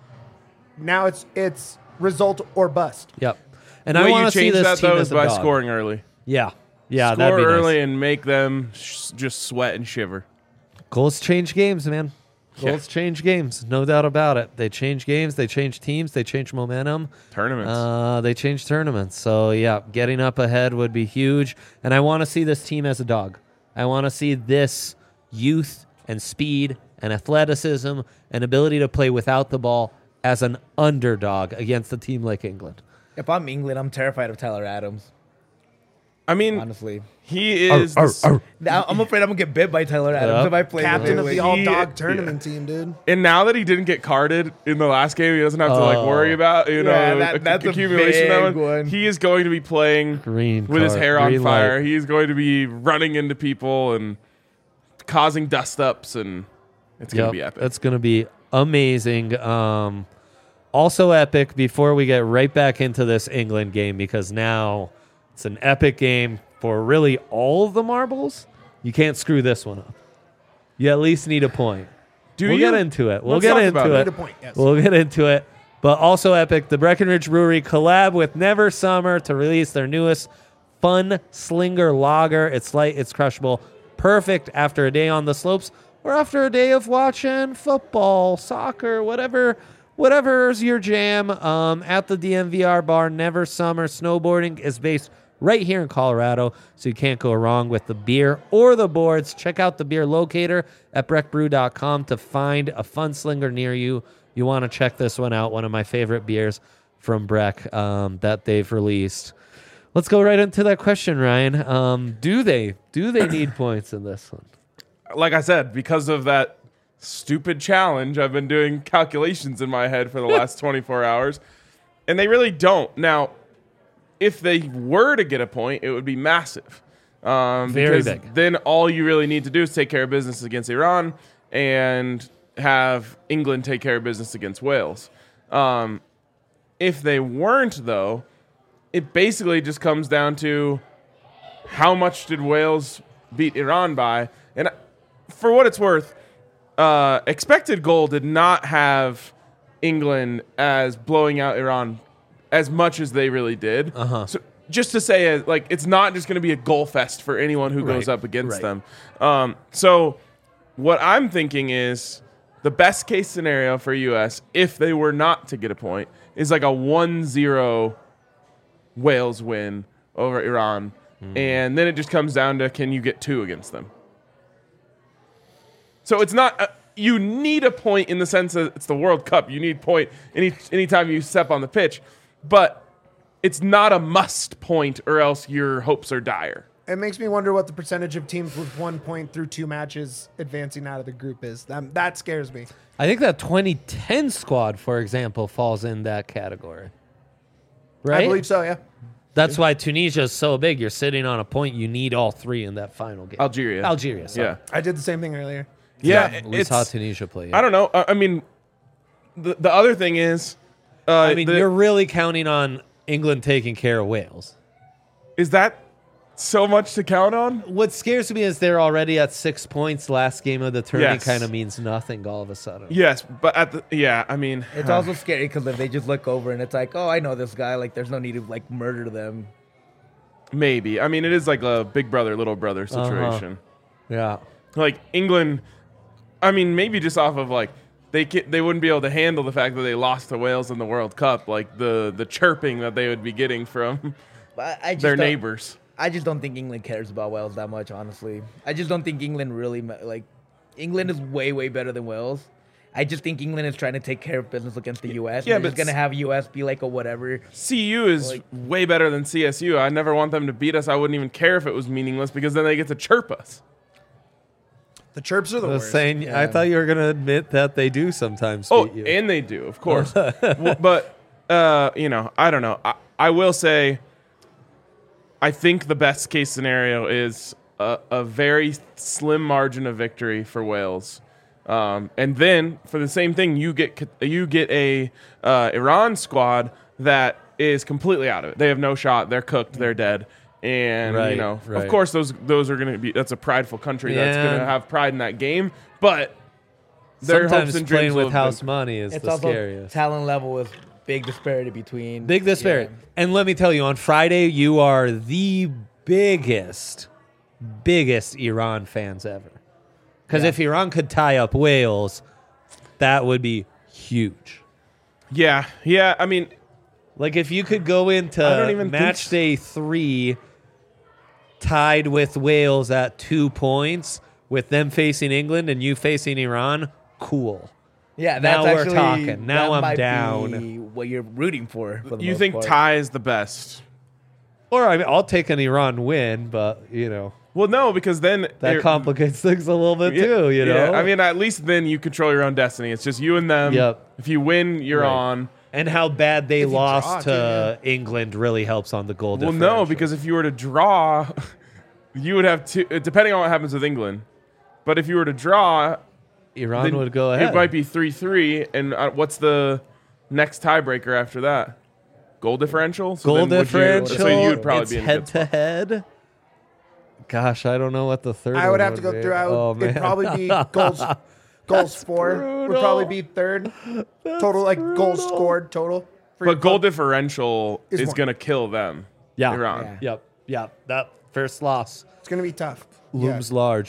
now it's result or bust. Yep. And The I way want you to see change this that team though as is a by dog. scoring early. Yeah. Yeah, Score that'd be early nice. and make them just sweat and shiver. Goals change games, man. Yeah. Goals change games, no doubt about it. They change games, they change teams, they change momentum. Tournaments. They change tournaments. So, yeah, getting up ahead would be huge. And I want to see this team as a dog. I want to see this youth and speed and athleticism and ability to play without the ball as an underdog against a team like England. If I'm England, I'm terrified of Tyler Adams. I mean, Honestly, he is. the I'm afraid I'm gonna get bit by Tyler Adams Yep. if I play Captain the of way- the all-dog He- tournament team, dude. And now that he didn't get carded in the last game, he doesn't have to like Oh. worry about Yeah, that's a accumulation. That big one. He is going to be playing Green with his card, hair on green fire. light. He's going to be running into people and causing dust ups, and it's going to be epic. It's going to be amazing. Also epic before we get right back into this England game, because now it's an epic game for really all of the marbles. You can't screw this one up. You at least need a point. Do we'll you? get into it. We'll Let's get talk into about it. it. Need a point, yes. We'll get into it. But also epic, the Breckenridge Brewery collab with Never Summer to release their newest Fun Slinger Lager. It's light, it's crushable, perfect after a day on the slopes or after a day of watching football, soccer, whatever's your jam. At the DMVR bar, Never Summer Snowboarding is based right here in Colorado, so you can't go wrong with the beer or the boards. Check out the beer locator at breckbrew.com to find a Fun Slinger near you. You want to check this one out, one of my favorite beers from Breck that they've released. Let's go right into that question, Ryan. Do they need points in this one? Like I said, because of that stupid challenge, I've been doing calculations in my head for the last 24 hours, and they really don't. Now, if they were to get a point, it would be massive. Very Because big. then all you really need to do is take care of business against Iran and have England take care of business against Wales. If they weren't, though, it basically just comes down to how much did Wales beat Iran by? And for what it's worth, expected goal did not have England as blowing out Iran as much as they really did. So just to say, like, it's not just going to be a goal fest for anyone who goes Right, up against right. them. So what I'm thinking is the best case scenario for U.S., if they were not to get a point, is like a 1-0 Wales win over Iran. And then it just comes down to, can you get 2 against them? So it's not you need a point in the sense that it's the World Cup. You need point anytime you step on the pitch, but it's not a must point, or else your hopes are dire. It makes me wonder what the percentage of teams with 1 point through 2 matches advancing out of the group is. That scares me. I think that 2010 squad, for example, falls in that category. Right? I believe so, yeah. That's why Tunisia is so big. You're sitting on a point. You need all 3 in that final game. Algeria. Sorry. Yeah. I did the same thing earlier. Yeah. We saw Tunisia play. I don't know. I mean, the other thing is, you're really counting on England taking care of Wales. Is that so much to count on? What scares me is they're already at 6 points. Last game of the tournament Yes. kind of means nothing all of a sudden. Yes, but I mean, It's also scary because if they just look over and it's like, oh, I know this guy. Like, there's no need to like murder them. maybe. I mean, it is like a big brother, little brother situation. Yeah. Like England, I mean, maybe just off of like they wouldn't be able to handle the fact that they lost to Wales in the World Cup, like the chirping that they would be getting from But I just their don't- neighbors. I just don't think England cares about Wales that much, honestly. I just don't think England really like. England is way, way better than Wales. I just think England is trying to take care of business against the U.S. Yeah, They're just but gonna have U.S. be like a whatever. CU is Like- way better than CSU. I never want them to beat us. I wouldn't even care if it was meaningless because then they get to chirp us. The chirps are the I was worst. saying, I thought you were going to admit that they do sometimes Oh, beat you. and they do, of course. But I don't know. I will say, I think the best case scenario is a very slim margin of victory for Wales, and then for the same thing, you get a Iran squad that is completely out of it. They have no shot. They're cooked. They're dead. And Right, of right. course, those are going to be. That's a prideful country that's Yeah. going to have pride in that game, but. Their Sometimes hopes and playing dreams will with have house been- money is It's the also scariest. talent level with big disparity between. Big disparity. Yeah. And let me tell you, on Friday, you are the biggest Iran fans ever. Because if Iran could tie up Wales, that would be huge. Yeah. I mean, Like if you could go into I don't even match think day 3 tied with Wales at 2 points, with them facing England and you facing Iran, cool. Yeah, Now that's we're actually, talking. Now that I'm might down. be what you're rooting for the you most think part. tie is the best? Or I mean, I'll take an Iran win, but Well, no, because then that you're- complicates things a little bit too. You know, I mean, at least then you control your own destiny. It's just you and them. Yep. If you win, you're Right. on. and how bad they If you lost draw, to England really helps on the goal Well, differential. no, because if you were to draw, you would have two. Depending on what happens with England, but if you were to draw, Iran then would go ahead. It might be 3-3, and what's the next tiebreaker after that? Goal differential. So goal then would you- differential. so you would probably it's be in a head good spot. to head. Gosh, I don't know what the third. I would one have to go be. through. Oh, It'd man. probably be goals for. Would probably be third. Total, like goals brutal. scored total. For But your goal club. differential Is is one. going to kill them. Yeah. Iran. Yeah. Yep. That first loss It's gonna be tough. looms large.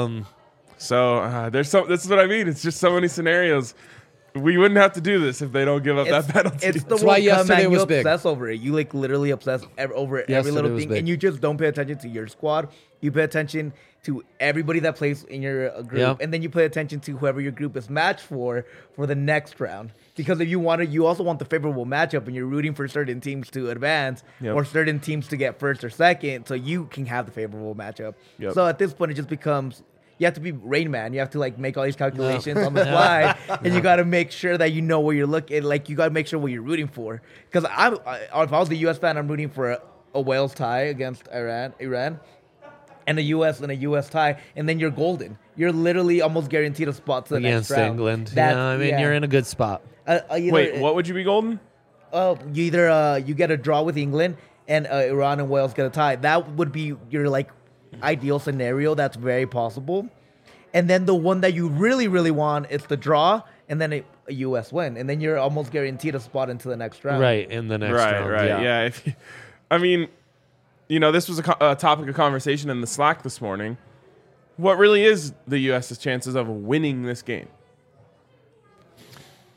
So this is what I mean. It's just so many scenarios. We wouldn't have to do this if they don't give up that penalty. It's the That's why World Cup, yesterday man. was You big. obsess over it. You like literally obsess over every Yesterday little was thing, big. and you just don't pay attention to your squad. You pay attention to everybody that plays in your group, Yep. and then you pay attention to whoever your group is matched for the next round. Because if you also want the favorable matchup, and you're rooting for certain teams to advance Yep. or certain teams to get first or second, so you can have the favorable matchup. Yep. So at this point, it just becomes. You have to be Rain Man. You have to like make all these calculations on the fly, and you got to make sure that you know where you're looking. Like you got to make sure what you're rooting for. Because if I was the U.S. fan, I'm rooting for a Wales tie against Iran, and a U.S. tie, and then you're golden. You're literally almost guaranteed a spot to the against next round. England. That's- Yeah, I mean, you're in a good spot. Wait, what would you be golden? You either you get a draw with England, and Iran and Wales get a tie. That would be your like ideal scenario. That's very possible. And then the one that you really, really want is the draw, and then a U.S. win, and then you're almost guaranteed a spot into the next round. Right, in the next round. Right. Yeah. If I mean, this was a topic of conversation in the Slack this morning. What really is the U.S.'s chances of winning this game?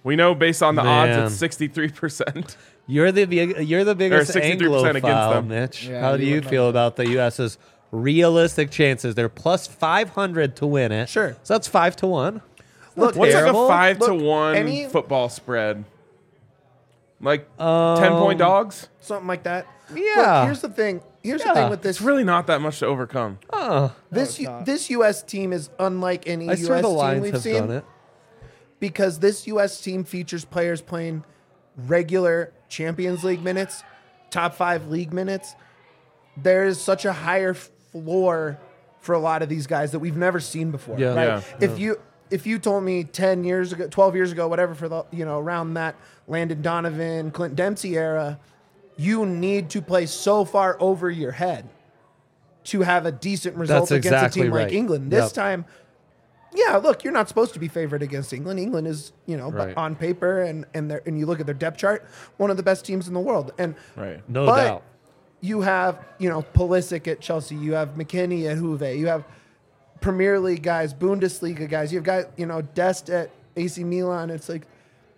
We know based on the Man. odds, it's 63%. You're the biggest 63% Anglophile, against them. Mitch. Yeah, How do you you would know feel that. about the U.S.'s realistic chances? They're plus 500 to win it. Sure. So that's 5 to 1. Look, What's Terrible. like a 5 to Look, 1 any- football spread? Like 10-point dogs? something like that. Yeah. Look, here's the thing. Here's the Yeah. thing with It's this. really not that much to overcome. This this U.S. team is unlike any I U.S. swear the team Lions we've have seen done it. because this U.S. team features players playing regular Champions League minutes, top 5 league minutes. There is such a higher floor for a lot of these guys that we've never seen before. Yeah. Right? Yeah. If you told me 10 years ago, 12 years ago, whatever, for the around that Landon Donovan, Clint Dempsey era, you need to play so far over your head to have a decent result That's against exactly a team right. like England. This Yep. time, yeah, look, you're not supposed to be favored against England. England is, Right. on paper and you look at their depth chart, one of the best teams in the world. And Right. No but doubt. you have, Pulisic at Chelsea, you have McKennie at Juve, you have Premier League guys, Bundesliga guys, you've got, Dest at AC Milan. It's like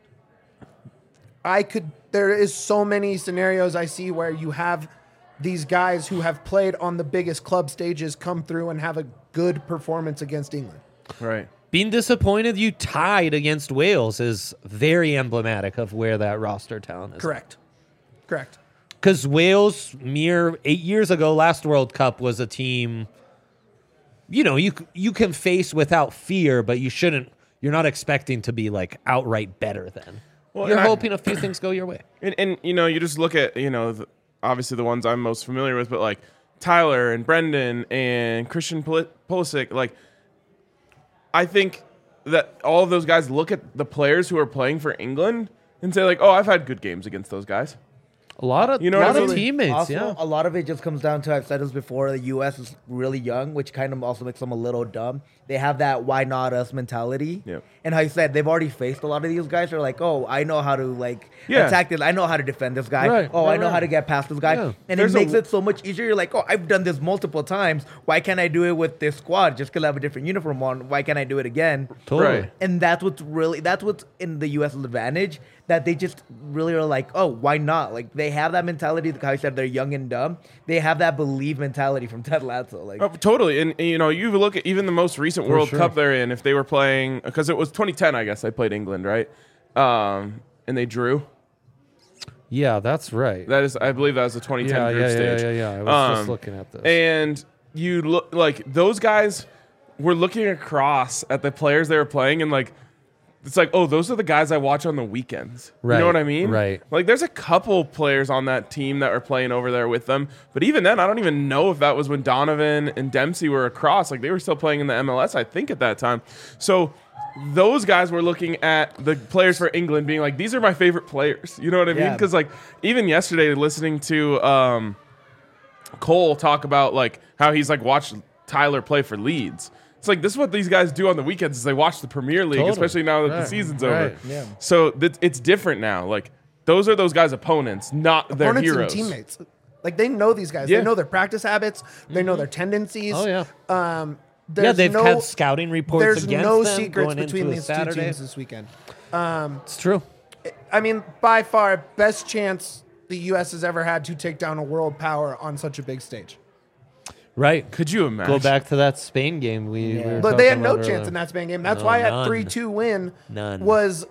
there is so many scenarios I see where you have these guys who have played on the biggest club stages come through and have a good performance against England. Right. Being disappointed you tied against Wales is very emblematic of where that roster talent is. Correct. Because Wales, mere 8 years ago, last World Cup, was a team, you can face without fear, but you're not expecting to be like outright better than. Well, You're and hoping a few things go your way. And you just look at, obviously the ones I'm most familiar with, but like Tyler and Brendan and Christian Pulisic, like I think that all of those guys look at the players who are playing for England and say like, oh, I've had good games against those guys. A lot of, You know what I mean? teammates, Also, yeah. a lot of it just comes down to, I've said this before, the U.S. is really young, which kind of also makes them a little dumb. They have that why not us mentality. Yep. And how you said, they've already faced a lot of these guys. They're like, oh, I know how to Yeah. attack this. I know how to defend this guy. Right, Oh, right, I know right. how to get past this guy. Yeah. And There's it makes a- it so much easier. You're like, oh, I've done this multiple times. Why can't I do it with this squad? Just because I have a different uniform on. Why can't I do it again? Totally. Right. And that's what's in the U.S.'s advantage, that they just really are like, oh, why not? Like, they have that mentality, like how I said, they're young and dumb. They have that believe mentality from Ted Lasso. Like, Oh, totally. And you look at even the most recent World sure. Cup they're in, if they were playing, because it was 2010, I guess they played England, right? And they drew. Yeah, that's right. I believe that was the 2010 yeah, group yeah, stage. yeah. I was just Um, looking at this. And you look like those guys were looking across at the players they were playing, and like it's like, oh, those are the guys I watch on the weekends. You Right, know what I mean? right. Like there's a couple players on that team that are playing over there with them, but even then, I don't even know if that was when Donovan and Dempsey were across. Like they were still playing in the MLS, I think, at that time. So those guys were looking at the players for England, being like, these are my favorite players. You know what I mean? Yeah. Because like even yesterday, listening to Cole talk about like how he's like watched Tyler play for Leeds. It's like this is what these guys do on the weekends is they watch the Premier League, Totally. especially now that the Right, season's right. over. Yeah. So it's different now. Like those are those guys' opponents, not their Opponents heroes. and teammates. Like they know these guys. Yeah. They know their practice habits. They know their tendencies. Oh, yeah. Yeah, Yeah, they've had scouting reports There's against no them secrets going between into a these two Saturday. teams this weekend. It's true. I mean, by far, best chance the U.S. has ever had to take down a world power on such a big stage. Right. Could you imagine? Go back to that Spain game we were But they had talking no about chance earlier. in that Spain game. That's No, why none. that 3-2 win None. was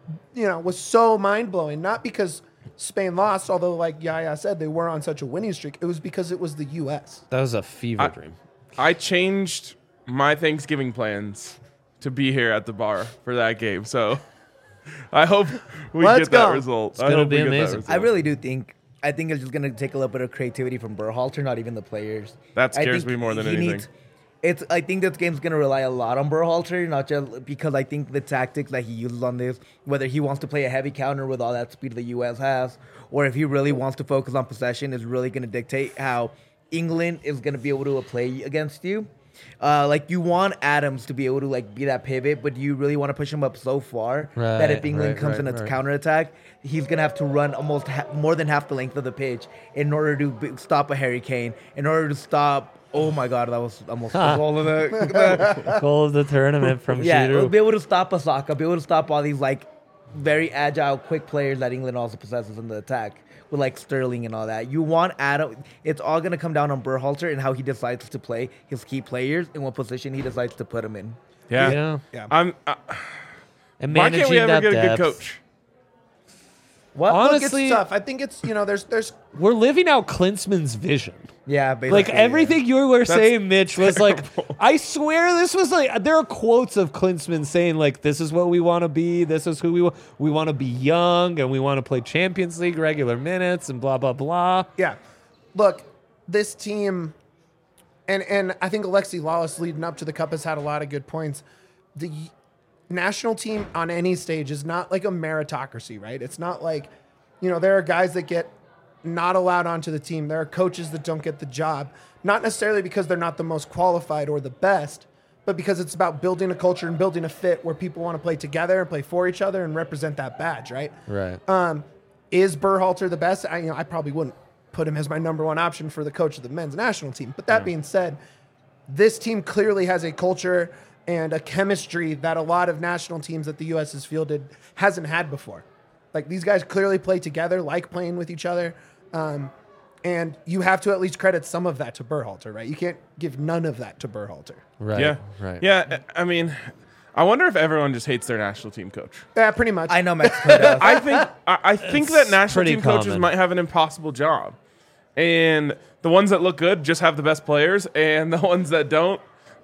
so mind blowing. Not because Spain lost, although like Yaya said, they were on such a winning streak. It was because it was the U.S. That was a fever dream. I changed my Thanksgiving plans to be here at the bar for that game. So I hope we Let's get that go. result. gonna I hope be we get that amazing. result. I really do think. I think it's just gonna take a little bit of creativity from Berhalter, not even the players. That I scares think me more than he anything. I think this game's gonna rely a lot on Berhalter, not just because I think the tactics that he uses on this, whether he wants to play a heavy counter with all that speed the U.S. has, or if he really wants to focus on possession, is really gonna dictate how England is gonna be able to play against you. Like you want Adams to be able to like be that pivot, but you really want to push him up so far that if Right, England right, comes right, in its right. counterattack, he's gonna have to run almost more than half the length of the pitch in order to stop a Harry Kane, in order to stop. Oh my God, that was almost the goal of the. Goal of the tournament from Yeah, Giroud. be able to stop Osaka, be able to stop all these like very agile, quick players that England also possesses in the attack with like Sterling and all that. You want Adam. It's all going to come down on Berhalter and how he decides to play his key players and what position he decides to put them in. Yeah. Yeah. And Why can't we managing ever that get a good depth. coach? What? Honestly, Look, it's tough. I think it's, there's we're living out Klinsmann's vision. Yeah, basically. Like everything you were saying, Mitch, was like, terrible. I swear this was like, there are quotes of Klinsmann saying like, this is what we want to be. This is who we want to be young and we want to play Champions League regular minutes and blah, blah, blah. Yeah. Look, this team, and I think Alexi Lawless leading up to the Cup has had a lot of good points. The national team on any stage is not like a meritocracy, right? It's not like, there are guys that get not allowed onto the team. There are coaches that don't get the job, not necessarily because they're not the most qualified or the best, but because it's about building a culture and building a fit where people want to play together and play for each other and represent that badge, right? Right. Is Berhalter the best? I probably wouldn't put him as my number one option for the coach of the men's national team. But that being said, this team clearly has a culture and a chemistry that a lot of national teams that the U.S. has fielded hasn't had before. Like, these guys clearly play together, like playing with each other. And you have to at least credit some of that to Berhalter, right? You can't give none of that to Berhalter. Right. Yeah. Right. Yeah. I mean, I wonder if everyone just hates their national team coach. Yeah, pretty much. I know Mexico does. I think that national pretty team coaches common. might have an impossible job. And the ones that look good just have the best players, and the ones that don't,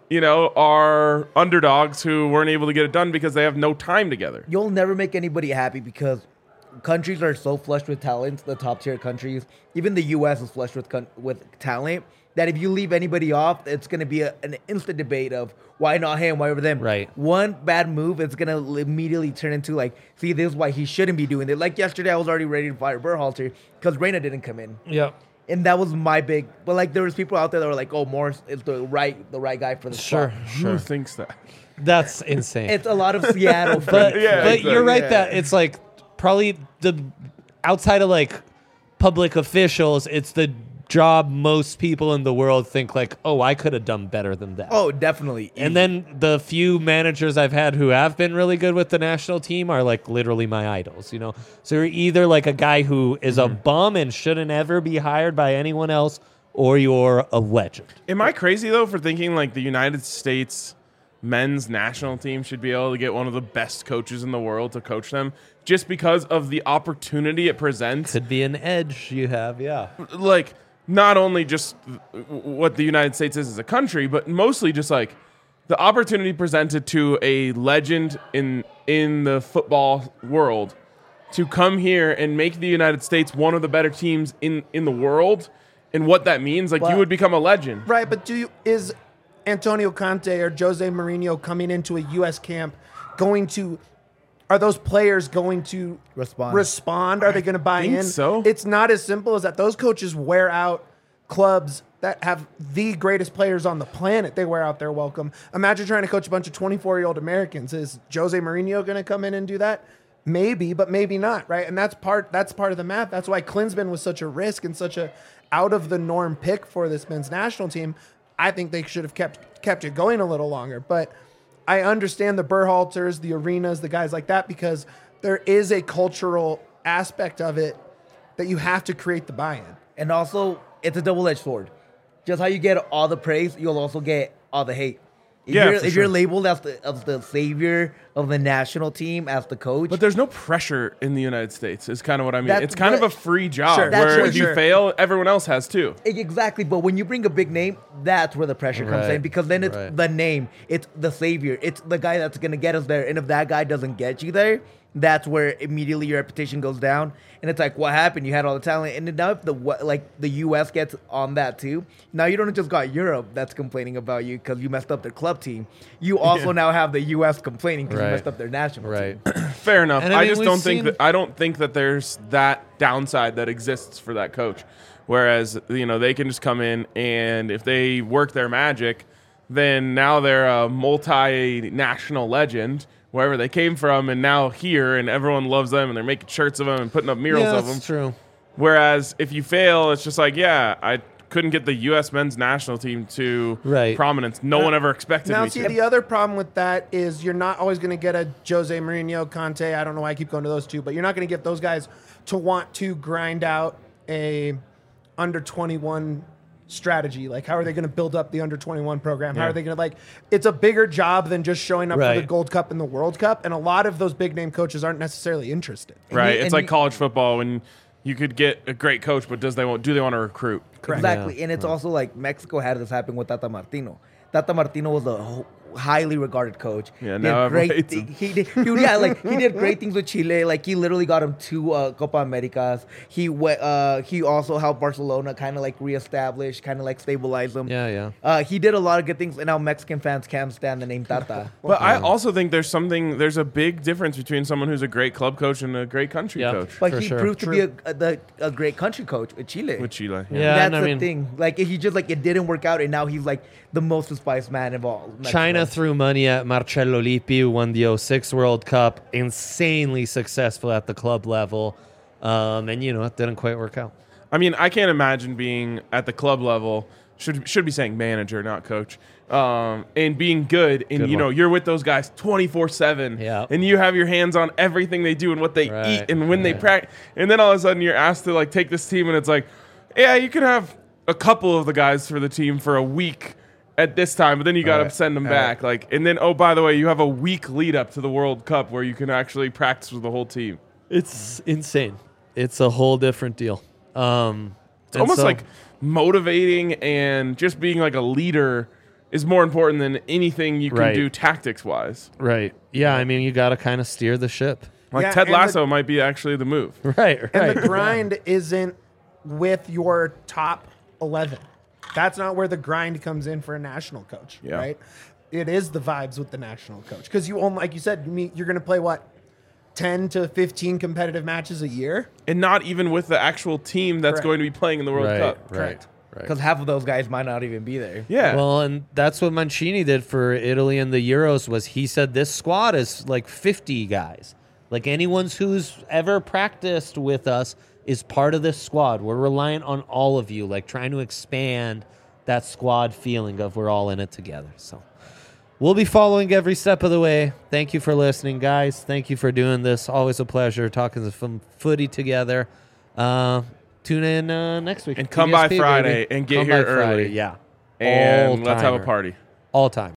are underdogs who weren't able to get it done because they have no time together. You'll never make anybody happy because countries are so flushed with talent, the top tier countries, even the U.S. is flushed with talent, that if you leave anybody off, it's going to be an instant debate of why not him, why over them. Right. One bad move, it's going to immediately turn into like, see, this is why he shouldn't be doing it. Like yesterday, I was already ready to fire Berhalter because Reina didn't come in. Yep. And that was my big, but like there was people out there that were like, oh, Morris is the right guy for the Sure. spot. Who thinks that? That's insane. It's a lot of Seattle. but Yeah, but exactly. you're right Yeah. that it's like probably the outside of like public officials, it's the job most people in the world think like, oh, I could have done better than that. Oh, definitely. And then the few managers I've had who have been really good with the national team are like literally my idols, So you're either like a guy who is a bum and shouldn't ever be hired by anyone else, or you're a legend. Am I crazy, though, for thinking like the United States men's national team should be able to get one of the best coaches in the world to coach them just because of the opportunity it presents? Could be an edge you have, yeah. Like, not only just what the United States is as a country, but mostly just like the opportunity presented to a legend in the football world to come here and make the United States one of the better teams in the world, and what that means. Like, you would become a legend. Right, but is Antonio Conte or Jose Mourinho coming into a U.S. camp are those players going to respond? Are they going to buy think in? so. It's not as simple as that. Those coaches wear out clubs that have the greatest players on the planet. They wear out their welcome. Imagine trying to coach a bunch of 24-year-old Americans. Is Jose Mourinho going to come in and do that? Maybe, but maybe not, right? And that's part of the math. That's why Klinsmann was such a risk and such a out of the norm pick for this men's national team. I think they should have kept it going a little longer, but I understand the Berhalters, the Arenas, the guys like that, because there is a cultural aspect of it that you have to create the buy-in. And also, it's a double-edged sword. Just how you get all the praise, you'll also get all the hate. If you're labeled as the savior of the national team, as the coach. But there's no pressure in the United States, is kind of what I mean. It's kind of a free job Sure. where That's if you sure. fail, everyone else has too. Exactly, but when you bring a big name, that's where the pressure comes Right, in, because then it's right. the name, it's the savior, it's the guy that's going to get us there. And if that guy doesn't get you there, that's where immediately your reputation goes down. And it's like, what happened? You had all the talent, and now if the U.S. gets on that too, now you don't just got Europe that's complaining about you because you messed up their club team. You also now have the U.S. complaining because Right. you messed up their national team. Fair enough. And I I mean, just we've don't think seen- that I don't think that there's that downside that exists for that coach. Whereas, they can just come in, and if they work their magic, then now they're a multinational legend wherever they came from, and now here, and everyone loves them, and they're making shirts of them and putting up murals Yeah, of them. that's true. Whereas if you fail, it's just like, yeah, I couldn't get the U.S. men's national team to Right. prominence. No one ever expected Now, me see, to. the other problem with that is you're not always going to get a Jose Mourinho, Conte. I don't know why I keep going to those two, but you're not going to get those guys to want to grind out a under 21 strategy. Like, how are they going to build up the under 21 program? How Yeah. are they going to it's a bigger job than just showing up for Right. the Gold Cup and the World Cup. And a lot of those big name coaches aren't necessarily interested. Right. you- It's and like you- college football when you could get a great coach, but do they want to recruit? Correct. Exactly. And it's also like Mexico had this happen with Tata Martino. Tata Martino was a highly regarded coach. Yeah, He now did everyone great hates thi- him. he did he did great things with Chile. Like he literally got him 2 Copa Americas. He also helped Barcelona kind of like reestablish, kind of like stabilize them. Yeah. He did a lot of good things, and now Mexican fans can't stand the name Tata. But I also think there's a big difference between someone who's a great club coach and a great country Yeah. coach But For he sure. proved to be a great country coach with Chile. with Chile. Yeah. That's and I the mean- thing. Like he just like it didn't work out, and now he's like the most despised man of all. China Mexico. threw money at Marcello Lippi, who won the 06 World Cup, insanely successful at the club level. And, it didn't quite work out. I mean, I can't imagine being at the club level. Should be saying manager, not coach. And being good, and Good one. you're with those guys 24/7, Yeah. and you have your hands on everything they do and what they Right, eat and when they right. practice. And then all of a sudden, you're asked to like take this team, and it's like, yeah, you can have a couple of the guys for the team for a week at this time, but then you got to Right, send them right. back. Like, and then by the way, you have a week lead up to the World Cup where you can actually practice with the whole team. It's insane. It's a whole different deal. It's almost like motivating and just being like a leader is more important than anything you can Right. do tactics wise. Right. Yeah, I mean, you got to kind of steer the ship. Like Yeah, Ted and the- Lasso might be actually the move. Right, right. And the grind isn't with your top 11. That's not where the grind comes in for a national coach, Yeah. right? It is the vibes with the national coach. Because you only, like you said, you're going to play, 10 to 15 competitive matches a year? And not even with the actual team that's Correct. going to be playing in the World right, Cup. right, Correct. right. Because half of those guys might not even be there. Yeah. Well, and that's what Mancini did for Italy in the Euros was he said this squad is like 50 guys. Like anyone who's ever practiced with us is part of this squad. We're reliant on all of you, like trying to expand that squad feeling of we're all in it together. So we'll be following every step of the way. Thank you for listening, guys. Thank you for doing this. Always a pleasure talking some footy together. Tune in next week. And come by PBSP, Friday baby. and get Come here by Friday, early. Yeah. And let's have a All-timer. party. All time.